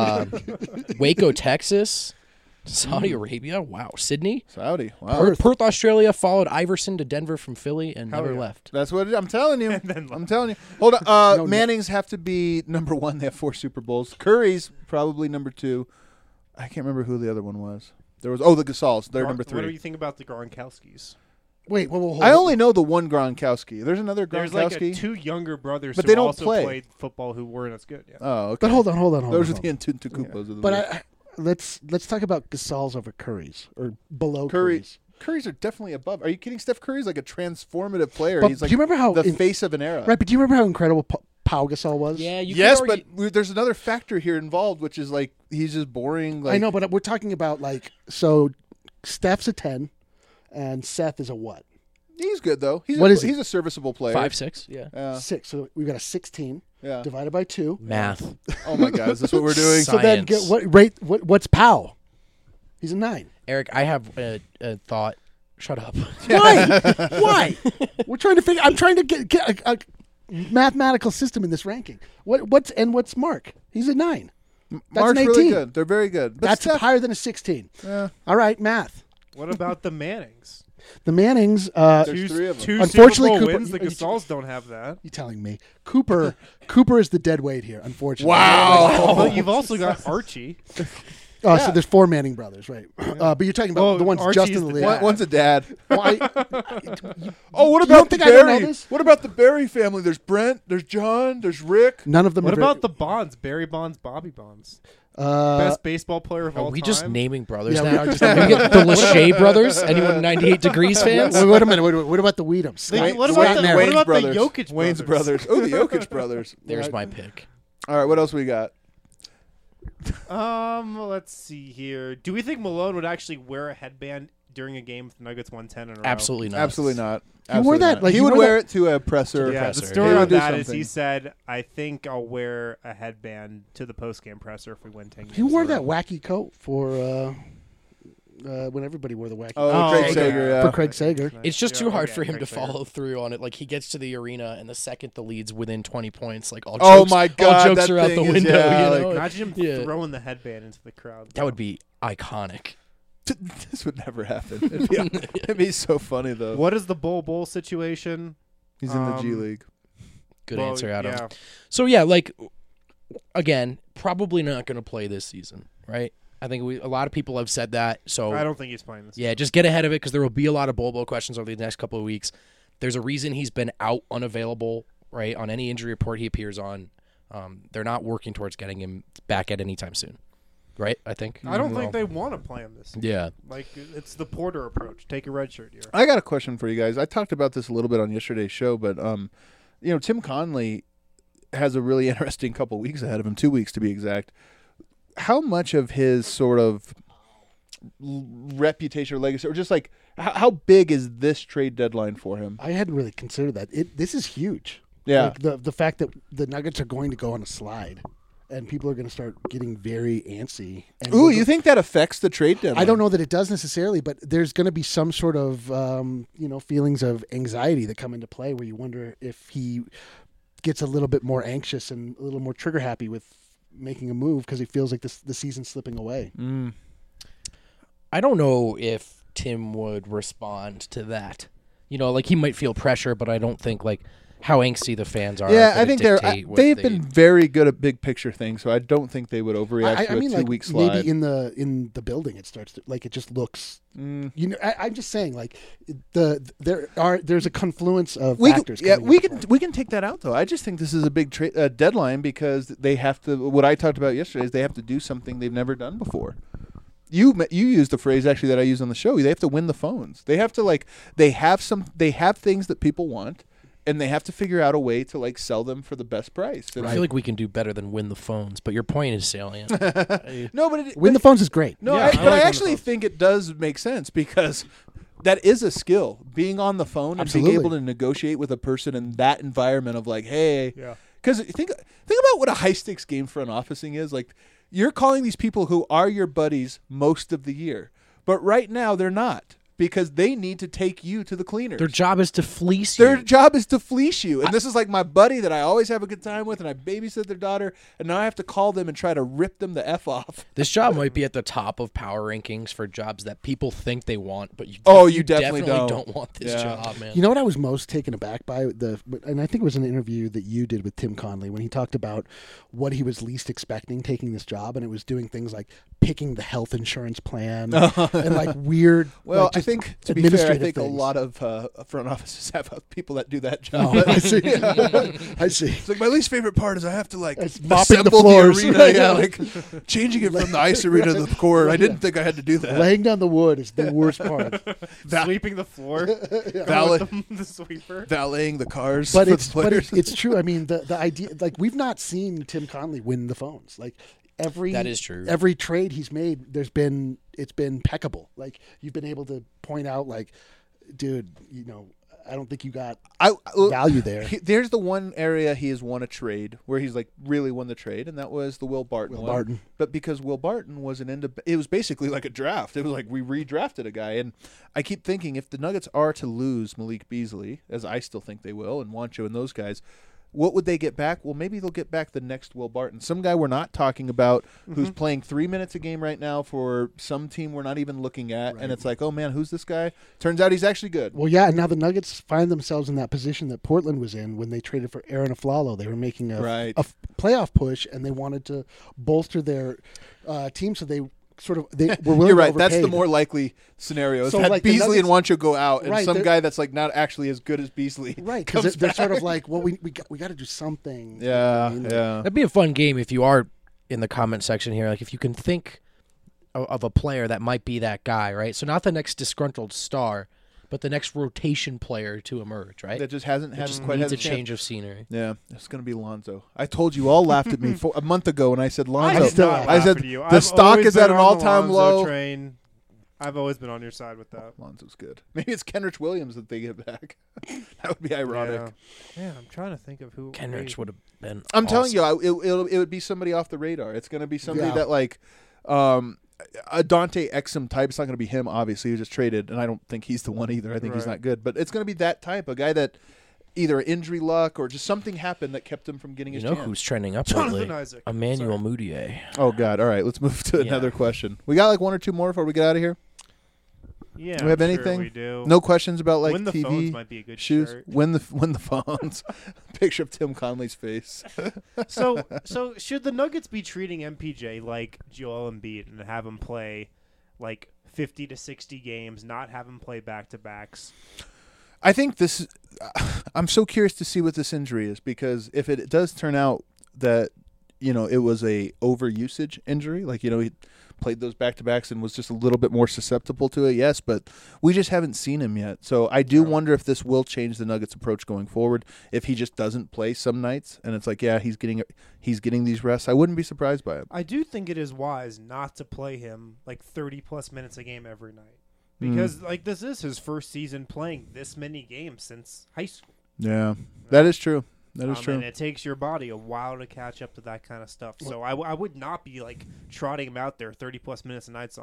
Waco, Texas. Saudi Arabia. Wow. Sydney. Saudi. Wow. Perth, Australia. Followed Iverson to Denver from Philly and Hell never yeah. left. That's what I'm telling you. then I'm telling you. Hold on. No, Mannings have to be number one. They have 4 Super Bowls. Curry's probably number 2. I can't remember who the other one was. There was the Gasols. They're number What do 3. you think about the Gronkowskis? Wait, hold I on. only know the one Gronkowski. There's another There's like Gronkowski. 2 younger brothers But who they don't also play. played football who weren't as good. Yeah. Oh, okay. But hold on. Those are hold the on. Antetokounmpos of the But league. let's talk about Gasols over Currys or below Curry. Currys. Curry's are definitely above. Are you kidding? Steph Curry's like a transformative player. But He's like do you remember how the face of an era. right? But do you remember how incredible Pau Gasol was? Yeah, you Yes, could but argue- there's another factor here involved, which is like he's just boring. Like, I know, but we're talking about like so. Steph's a 10, and Seth is a what? he's good though. What is he? He's a serviceable player. 5'6". Yeah. Yeah. 6. So we've got a 16 Yeah. divided by 2. Math. Oh my God, is this what we're doing? So- So then get Science. what rate? What's Pau? He's a 9. Eric, I have a thought. Shut up. Why? Why? We're trying to figure. I'm trying to get a mathematical system in this ranking. What's Mark? He's a 9. That's Mark's an 18. really good. They're very good. But That's Steph, higher than a 16. yeah, All right, math. What about the Mannings? The Mannings. There's 3 of them. Two Unfortunately, Super Bowl Cooper- wins. The Gasols don't have that. You telling me Cooper is the dead weight here? Unfortunately. Wow. But you've also got Archie. Oh, so there's 4 Manning brothers, right? But you're talking about Well, the ones Archie's just in the the league. dad. One's a dad. Why? Oh, what You about don't the think I don't know Barry? this? What about the Barry family? There's Brent, there's John, there's Rick. None of them. What are very- about the Bonds? Barry Bonds, Bobby Bonds. Uh, Best baseball player of Are all we time. just naming brothers Yeah, we now? are just Are we get the Lachey brothers? Anyone 98 Degrees fans? wait a minute. What about the Weedhams? Wait, what Scott about the- Merritt. what Wayne's about the brothers. Jokic Wayne's brothers? brothers. Oh, the Jokic brothers. There's my pick. All right, what else we got? Let's see here. Do we think Malone would actually wear a headband during a game if the Nuggets won 10 in a row? Absolutely not. Absolutely not. He wore Absolutely that, not. like, he he would wore wear that- it to a presser. Yeah, presser, the yeah. story He would on do that is something. he said, I think I'll wear a headband to the post-game presser if we win 10 games. He wore in a that row." wacky coat for when everybody wore the wacky Oh, coat. Craig okay. Sager, yeah. For Craig Sager. It's just Yeah, too hard okay, for him Craig to Sager. follow through on it. Like he gets to the arena, and the second the lead's within 20 points, like all Oh jokes, my all God, jokes that are out the thing is- window. yeah, you know? Imagine him Yeah. throwing the headband into the crowd. That would be iconic. This would never happen. It'd be so funny though. What is the Bowl situation? He's in the G Um, League. Good Well, answer, Adam. Yeah. So yeah, like again, probably not going to play this season, right? I think a lot of people have said that. So I don't think he's playing this. yeah, just get ahead of it because there will be a lot of Bobo questions over the next couple of weeks. There's a reason he's been out unavailable, right? On any injury report he appears on, they're not working towards getting him back at any time soon, right? I think. I don't think they want to play him this season. Yeah. Like, it's the Porter approach. Take a red shirt here. I got a question for you guys. I talked about this a little bit on yesterday's show, but Tim Conley has a really interesting couple weeks ahead of him, 2 weeks to be exact. How much of his sort of reputation or legacy, or just like how big is this trade deadline for him? I hadn't really considered that. This is huge. Yeah. Like the fact that the Nuggets are going to go on a slide, and people are going to start getting very antsy. And Ooh, you think that affects the trade deadline? I don't know that it does necessarily, but there's going to be some sort of feelings of anxiety that come into play where you wonder if he gets a little bit more anxious and a little more trigger happy with making a move because he feels like the season's slipping away. I don't know if Tim would respond to that. Like he might feel pressure, but I don't think like how angsty the fans are. Yeah, gonna I think dictate what they've they- been very good at big picture things, so I don't think they would overreact to a 2 week slide. maybe in the building it starts to like it just looks. I'm just saying like there's a confluence of factors. coming into play. We can take that out though. I just think this is a big deadline because they have to. What I talked about yesterday is they have to do something they've never done before. You used the phrase actually that I used on the show. They have to win the phones. They have to they have things that people want, and they have to figure out a way to sell them for the best price. And I feel like we can do better than win the phones, but your point is salient. no, but Win the phones is great. No, Yeah, I but like I on actually the phone. think it does make sense because that is a skill. Being on the phone and Absolutely. being able to negotiate with a person in that environment of hey, Yeah. because think about what a high stakes game front officing is. Like you're calling these people who are your buddies most of the year, but right now they're not because they need to take you to the cleaners. Their job is to fleece Their you. job is to fleece you. And this is like my buddy that I always have a good time with, and I babysit their daughter, and now I have to call them and try to rip them the F off. This job might be at the top of power rankings for jobs that people think they want, but you You definitely don't want this Yeah. job, man. You know what I was most taken aback by and I think it was an interview that you did with Tim Conley when he talked about what he was least expecting taking this job, and it was doing things like picking the health insurance plan and weird. Well, like, I just think, to be fair, I administrative think a things. lot of front offices have people that do that job. Oh, I see. I see. It's like my least favorite part is I have to It's mopping the assemble floors. arena, changing it from the ice arena to the court. I didn't think I had to do that. Laying down the wood is the worst part. Sweeping the floor. Valet- With the sweeper. Valeting the cars, But for it's the but players. it's true. I mean, the idea we've not seen Tim Conley win the phones. Every That is true. Every trade he's made, it's been impeccable. You've been able to point out, dude, I don't think you got value there. There's the one area he has won a trade where he's really won the trade, and that was the Will Barton Will one. Barton. But because Will Barton was it was basically like a draft. It was like we redrafted a guy, and I keep thinking if the Nuggets are to lose Malik Beasley, as I still think they will, and Juancho and those guys, what would they get back? Well, maybe they'll get back the next Will Barton. Some guy we're not talking about who's playing 3 minutes a game right now for some team we're not even looking at. Right. And it's like, oh, man, who's this guy? Turns out he's actually good. Well, yeah, and now the Nuggets find themselves in that position that Portland was in when they traded for Aaron Aflalo. They were making a Right. playoff push, and they wanted to bolster their team, so they sort of they were willing You're to right. That's the overpay. more likely scenario. Is So, that like, the Beasley and Nuggets- Wancho go out, and Right, some they're- guy that's like not actually as good as Beasley. Right, because comes they're sort back. of like, well, we got to do something. Yeah, You know? yeah. That'd be a fun game if you are in the comment section here. Like if you can think of a player that might be that guy, right? So not the next disgruntled star, but the next rotation player to emerge, right? That just hasn't It just quite needs had a chance. change of scenery. Yeah, it's gonna be Lonzo. I told you all laughed at me a month ago when I said I Lonzo. did still not laugh I laugh said at you. the I've stock always is at been an on the all-time Lonzo low. Train. I've always been on your side with that. Lonzo's good. Maybe it's Kenrich Williams that they get back. That would be ironic. Yeah, I'm trying to think of who. Kenrich would have been. I'm telling awesome. you, it would be somebody off the radar. It's going to be somebody Yeah. that like a Dante Exum type. It's not going to be him, obviously. He was just traded, and I don't think he's the one either. I think he's Right. not good. But it's going to be that type, a guy that either injury luck or just something happened that kept him from getting You his know chance. who's trending up Jonathan lately? Isaac. Emmanuel Mudiay. Oh, God. All right, let's move to Yeah. another question. We got like one or two more before we get out of here? Yeah. Do we have I'm sure anything? we do. No questions about like Win the TV phones might be a good shoes? shirt. Win the phones. Picture of Tim Conley's face. So should the Nuggets be treating MPJ like Joel Embiid and have him play like 50 to 60 games, not have him play back-to-backs? I think this. I'm so curious to see what this injury is, because if it does turn out that it was a overusage injury, like he played those back-to-backs and was just a little bit more susceptible to it. Yes, but we just haven't seen him yet. So I do wonder if this will change the Nuggets' approach going forward. If he just doesn't play some nights and it's like, yeah, he's getting these rests, I wouldn't be surprised by it. I do think it is wise not to play him like 30-plus minutes a game every night. Because like this is his first season playing this many games since high school. Yeah, that is true. That is true. And it takes your body a while to catch up to that kind of stuff. So I would not be like trotting him out there 30-plus minutes a night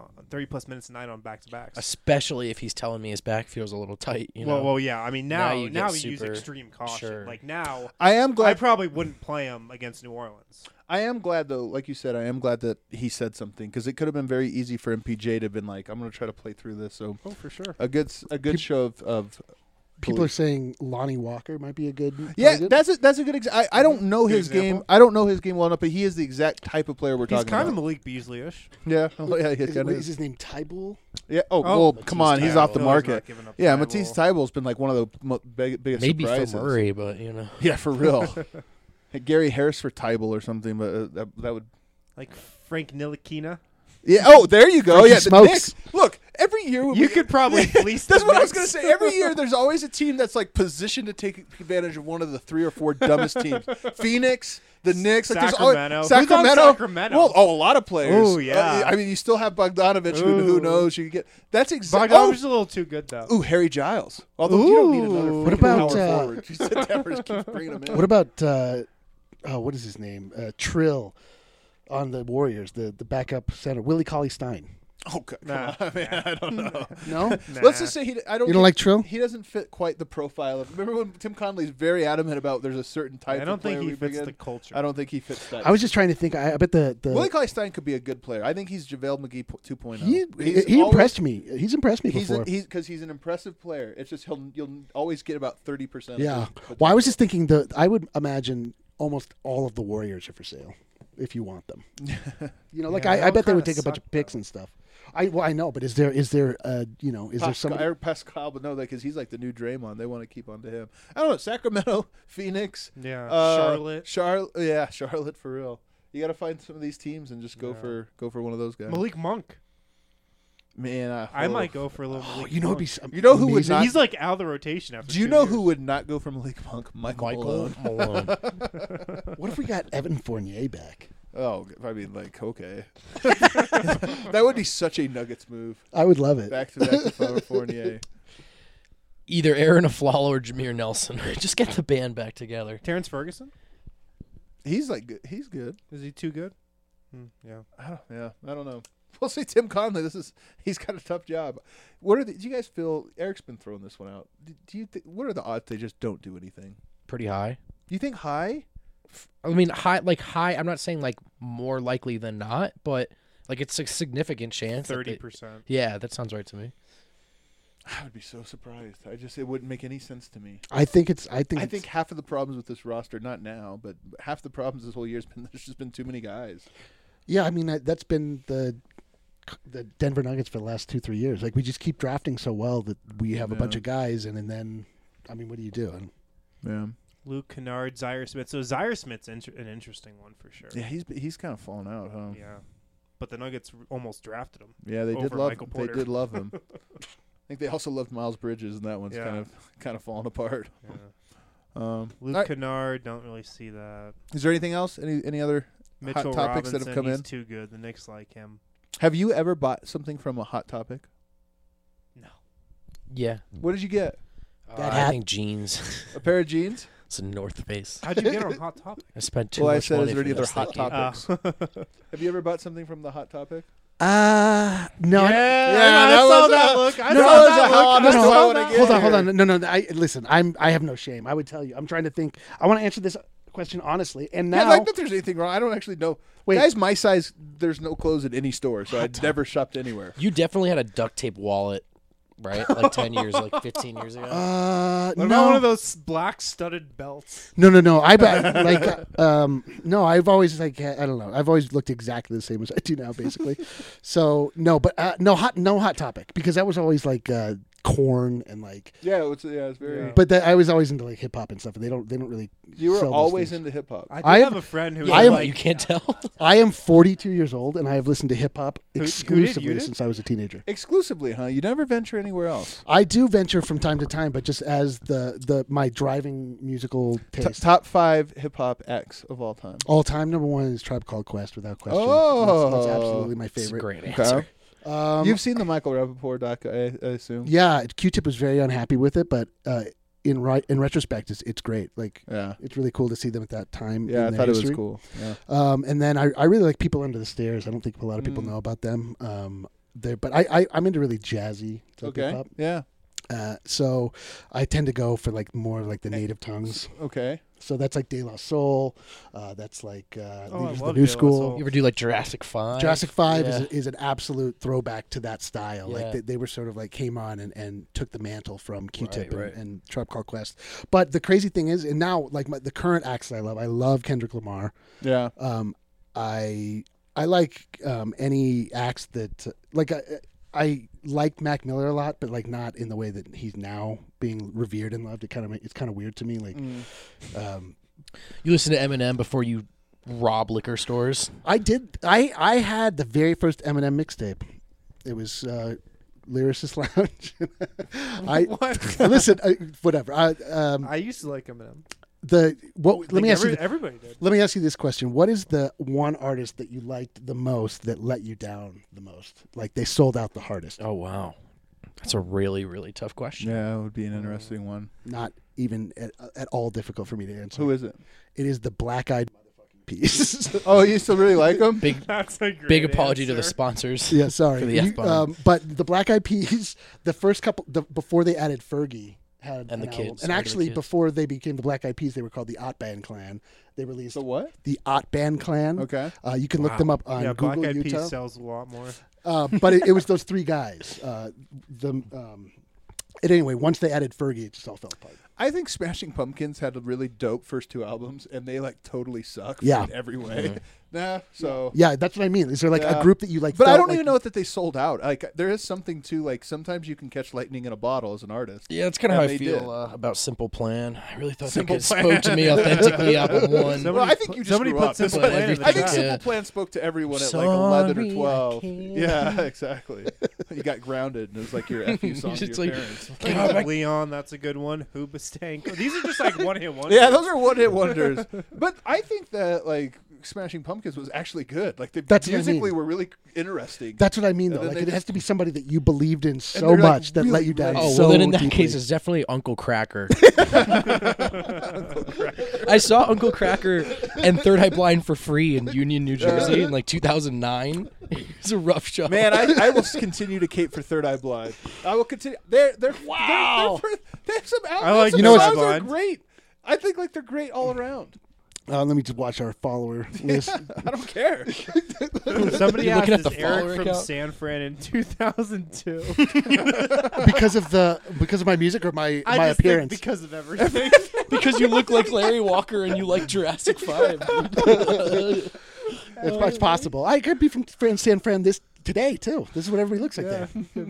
on back-to-backs. Especially if he's telling me his back feels a little tight. Well, yeah. I mean, Now now you you get use super- extreme caution. sure. Like now, I am I glad. probably wouldn't play him against New Orleans. I am glad, though, like you said, I am glad that he said something, because it could have been very easy for MPJ to have been like, I'm going to try to play through this. So Oh, for sure. a good show of People are saying Lonnie Walker might be a good. yeah, target. that's a good example. I don't know Good his game. example. I don't know his game well enough, but he is the exact type of player we're He's talking kind of about. Malik Beasley-ish. Yeah, oh, yeah, he Is, kinda wait, is is. his name Tybull? Yeah. Oh, Oh, well, Matisse come on, he's off the Thybulle. market. Giving up Yeah, Thybulle. Matisse Thybulle's been like one of the biggest maybe surprises. for Murray, but Yeah, for real. Hey, Gary Harris for Tybal or something, but that would. Like Frank Ntilikina. Yeah. Oh, there you go. Frankie Yeah, the Smokes. Knicks. Look, every year You could probably fleece That's the what I was Knicks. going to say. Every year, there's always a team that's like positioned to take advantage of one of the 3 or 4 dumbest teams. Phoenix, the Knicks, like Sacramento. There's always, Who's on Sacramento? Well, a lot of players. Ooh, yeah. I mean, you still have Bogdanovich. Who Ooh. knows? You could get that's exactly. Bogdanovich is a little too good though. Ooh, Harry Giles. Although you don't need another. Ooh. What freaking about, power uh, forward? You said Denver just keeps bringing him in. What about what is his name? Trill on the Warriors, the backup center, Willie Cauley-Stein. Oh, God, Nah. come on, man. I don't know. No, Let's just say I don't. you don't like Trill? He doesn't fit quite the profile of. Remember when Tim Conley's very adamant about there's a certain type. I don't of player think he we bring fits in? the culture. I don't think he fits that. I was just trying to think. I bet the Willie Cauley-Stein could be a good player. I think he's JaVale McGee 2.0. he impressed me. He's impressed me He's before. because he's an impressive player. It's just you'll always get about 30%. Yeah. Well, I was just thinking I would imagine almost all of the Warriors are for sale if you want them. Like Yeah, they I all bet they would kinda take a bunch suck, of picks though. and stuff. I know, but is there is there somebody? Eric Pascal, but no, because he's like the new Draymond. They want to keep on to him. I don't know. Sacramento, Phoenix, Yeah, Charlotte, Charlotte for real. You got to find some of these teams and just go Yeah. for one of those guys. Malik Monk. Man, I might go for a little. Oh, Malik you know, it'd be Monk. You know who would amazing. not- He's like out of the rotation after. Do you 2 know years. who would not go for Malik Monk? Michael Malone. Malone. What if we got Evan Fournier back? Oh, I mean, like, okay. That would be such a Nuggets move. I would love it. Back to Fournier. Either Aaron Aflalo or Jameer Nelson. Just get the band back together. Terrence Ferguson? He's like good. He's good. Is he too good? Yeah. I don't know. We'll see. Tim Conley. He's got a tough job. Do you guys feel? Eric's been throwing this one out. Do you think? What are the odds they just don't do anything? Pretty high. Do you think high? I mean, high. I'm not saying like more likely than not, but like it's a significant chance. that they- 30%. Yeah, that sounds right to me. I would be so surprised. It wouldn't make any sense to me. I think I think half of the problems with this roster, not now, but half the problems this whole year has been there's just been too many guys. Yeah, I mean that's been the the Denver Nuggets for the last 2-3 years. Like we just keep drafting so well that we have a Yeah. bunch of guys, and then, I mean, what do you do? And Yeah. Luke Kennard, Zaire Smith. So Zaire Smith's an interesting one for sure. Yeah, he's kind of fallen out, huh? Yeah. But the Nuggets almost drafted him. Yeah, they did Over love. Michael They Porter. did love him. I think they also loved Miles Bridges, and that one's Yeah. kind of fallen apart. Yeah. All Luke right. Kennard, don't really see that. Is there anything else? Any other Mitchell hot topics Robinson, that have come he's in? too good. The Knicks like him. Have you ever bought something from a Hot Topic? No. Yeah. What did you get? That I hat- think jeans. A pair of jeans? It's a North Face. How'd you get on Hot Topic? I spent too Well, I much said, money is there for any other this Hot thinking. Topics? Have you ever bought something from the Hot Topic? no, Yeah, that I saw was that a- look. I no, saw that was that a how look. honest I I saw wanna that get hold look. on, hold on. No. Listen. I have no shame. I would tell you. I'm trying to think. I want to answer this question honestly. And Yeah, now, like that there's anything wrong. I don't actually know. Wait. Guys my size, there's no clothes at any store, so I'd never shopped anywhere. You definitely had a duct tape wallet, right? Like 10 years, like 15 years ago. What no, about one of those black studded belts? no. I bet no. I've always I don't know. I've always looked exactly the same as I do now, basically. So no, but no hot topic because that was always like corn and like. Yeah, it's very. Yeah. But I was always into like hip hop and stuff, and they don't really. You were sell those always things. into hip hop. I I do am- have a friend who Yeah, I was am- like, you can't tell. I am 42 years old, and I have listened to hip hop Who did? exclusively You did? since I was a teenager. Exclusively, huh? You never venture anywhere else. I do venture from time to time, but just as my driving musical taste. Top 5 hip hop acts of all time. All time number one is Tribe Called Quest, without question. Oh. That's absolutely my It's a favorite. great Okay. answer. You've seen the Michael Rappaport doc, I assume. Yeah, Q-Tip was very unhappy with it, but in retrospect, it's great. Like Yeah. it's really cool to see them at that time. Yeah, I in their thought it history. was cool. Yeah. And then I really like People Under the Stairs. I don't think a lot of people know about them. But I'm into really jazzy type Okay. hip hop. Yeah. So I tend to go for like more like the native tongues. Okay. So that's like De La Soul. That's like I Leaders of the love New De La School. Soul. You ever do like Jurassic 5? Jurassic 5 Yeah. is an absolute throwback to that style. Yeah. Like they were sort of like came on and took the mantle from Q-Tip Right. and Tribe Called Quest. But the crazy thing is, and now like the current acts that I love Kendrick Lamar. Yeah. I like any acts that like I like Mac Miller a lot, but like not in the way that he's now being revered and loved. It's kind of weird to me. Like, You listen to Eminem before you rob liquor stores? I did. I had the very first Eminem mixtape. It was Lyricist Lounge. What? Listen, whatever. I used to like Eminem. Let me ask you. Everybody did. Let me ask you this question: what is the one artist that you liked the most that let you down the most? Like they sold out the hardest. Oh, wow. That's a really, really tough question. Yeah, it would be an interesting one. Not even at all difficult for me to answer. Who is it? It is the Black Eyed motherfucking Peas. Oh, you still really like him? Big That's a great big apology to the answer. sponsors. Yeah, sorry. For the F-bomb. But the Black Eyed Peas, the first couple, before they added Fergie, had And an the album. kids, And or the actually, kids. before they became the Black Eyed Peas, they were called the Ott Band Clan. They released The what? the Ott Band Clan. Okay. You can look them up on Yeah, Google, Black Eyed Utah. Peas sells a lot more. But it was those three guys. And anyway, once they added Fergie, it just all fell apart. I think Smashing Pumpkins had a really dope first 2 albums, and they like totally suck Yeah. in every way. Nah, so. Yeah, that's what I mean. Is there like Yeah. a group that you like? But I felt don't like even know that they sold out. Like there is something to like sometimes you can catch lightning in a bottle as an artist. Yeah, that's kind of And how I they feel did. about Simple Plan. I really thought Simple that Plan. spoke to me authentically. Album 1. Somebody Well, I think put- you just somebody grew put up. Simple But Plan in the everything- I think chat. Simple Yeah. Plan spoke to everyone at like 11 or Sorry, I 12. can't. Yeah, exactly. You got grounded, and it was like your FU song to It's your like- parents. God, my- Leon, that's a good one. Hoobastank. These are just like one-hit wonders. Yeah, those are one-hit wonders. But I think that like Smashing Pumpkins was actually good. Like they That's what I musically mean. were really interesting. That's what I mean, though. And then Like they it has just- to be somebody that you believed in so they're, like, much that let really you down. great. Oh, so well, then in that deeply. case, it's definitely Uncle Cracker. I saw Uncle Cracker and Third Eye Blind for free in Union, New Jersey in like 2009. It was a rough show. Man, I will continue to cape for Third Eye Blind. I will continue. Wow. They have some albums. I like some You know what's- songs are Blind. great. I think like they're great all around. Let me just watch our follower list. I don't care. Somebody You're asked looking at is the follower Eric from account? San Fran in 2002. because of my music or my I my just think appearance. because of everything. because you look like Larry Walker and you like Jurassic 5. It's possible. I could be from San Fran today too. This is what everybody looks like there.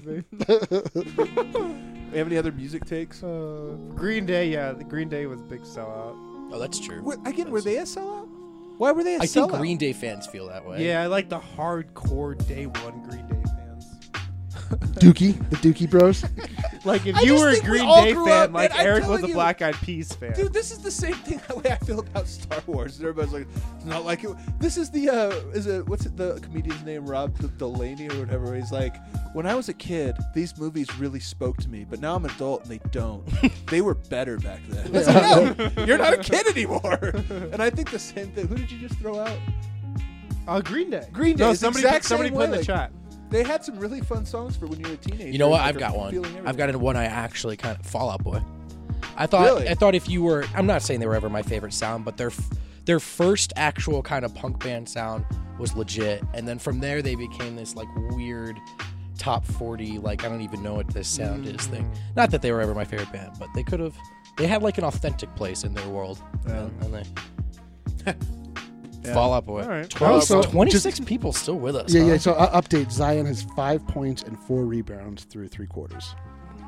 You have any other music takes? Green Day, the Green Day was a big sellout. Oh, that's true. Were they a sellout? Why were they a I sellout? think Green Day fans feel that way. Yeah, I like the hardcore day one Green Day fans. The Dookie Bros. Like if I you just were a think we Green all Day grew fan, up, like man, I'm Eric was telling a you. Black Eyed Peas fan. Dude, this is the same thing the way I feel about Star Wars. Everybody's like, it's not like it. This is the what's it, the comedian's name, Rob Delaney or whatever. He's like, when I was a kid, these movies really spoke to me, but now I'm an adult and they don't. They were better back then. It's like, no, you're not a kid anymore. And I think the same thing. Who did you just throw out? Green Day. Green Day. No, It's the somebody exact put same in the way, like- chat. They had some really fun songs for when you were a teenager. You know what? Like, I've got I'm one. feeling everything. I've got one I actually kind of Fall Out Boy. I thought Really? if you were, I'm not saying they were ever my favorite sound, but their first actual kind of punk band sound was legit, and then from there they became this like weird top 40, like I don't even know what this sound is thing. Not that they were ever my favorite band, but they had like an authentic place in their world, and they. Fall Out Boy. All right. 26 people still with us. Yeah. huh? So update: Zion has 5 points and 4 rebounds through 3 quarters.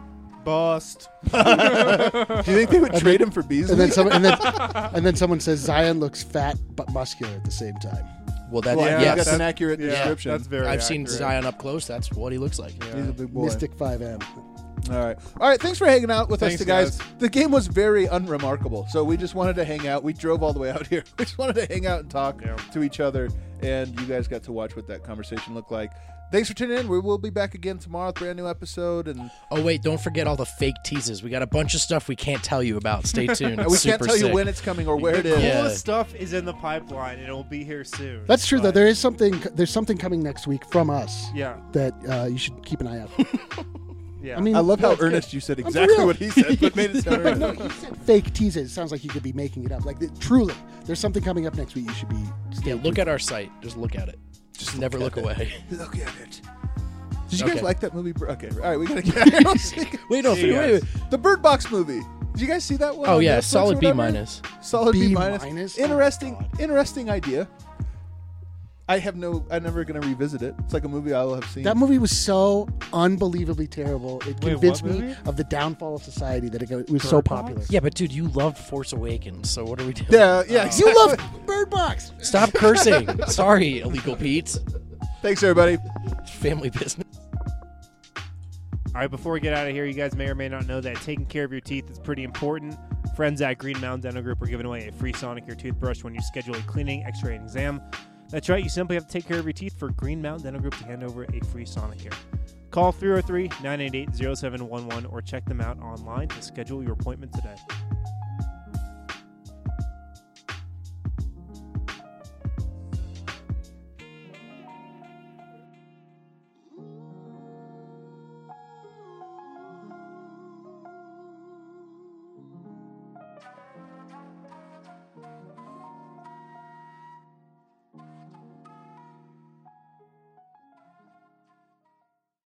Bust. Do you think they would trade him for Beasley? And then someone says Zion looks fat but muscular at the same time. Well, that Well, yes. that's an accurate description. That's very I've seen accurate. Zion up close. That's what he looks like. He's a big boy. Mystic 5M. All right. Thanks for hanging out with Thanks, us, guys. guys. The game was very unremarkable, so we just wanted to hang out. We drove all the way out here. We just wanted to hang out and talk to each other, and you guys got to watch what that conversation looked like. Thanks for tuning in. We will be back again tomorrow with a brand new episode, and Oh wait, don't forget all the fake teases. We got a bunch of stuff we can't tell you about. Stay tuned. we It's can't super tell you sick. when it's coming or where it The is. Yeah. coolest stuff is in the pipeline, and it will be here soon. That's true, though. But- There's something coming next week from us Yeah. that you should keep an eye out. Yeah. I mean, I love how that's good. earnest you said for exactly real. what he said, but made it sound But right. no, he said fake teases. It sounds like you could be making it up. Like truly, there's something coming up next week. You should be. Yeah, look at our site. Just look at it. Just never look away. Look at it. Did you guys Okay. like that movie? Okay, all right, we gotta get. Wait, no, See you wait. guys. The Bird Box movie. Did you guys see that one? Oh on yeah, Netflix or solid B whatever? minus. Solid B B minus. minus? Interesting idea. I'm never gonna revisit it. It's like a movie I'll have seen. That movie was so unbelievably terrible. It Wait, convinced what me movie? of the downfall of society that it was so Bird popular. Box? Yeah, but dude, you loved Force Awakens. So what are we doing? Yeah, exactly. You love Bird Box. Stop cursing. Sorry, illegal Pete. Thanks, everybody. Family business. All right, before we get out of here, you guys may or may not know that taking care of your teeth is pretty important. Friends at Green Mountain Dental Group are giving away a free Sonicare toothbrush when you schedule a cleaning, x-ray, and exam. That's right, you simply have to take care of your teeth for Green Mountain Dental Group to hand over a free Sonicare. Call 303-988-0711 or check them out online to schedule your appointment today.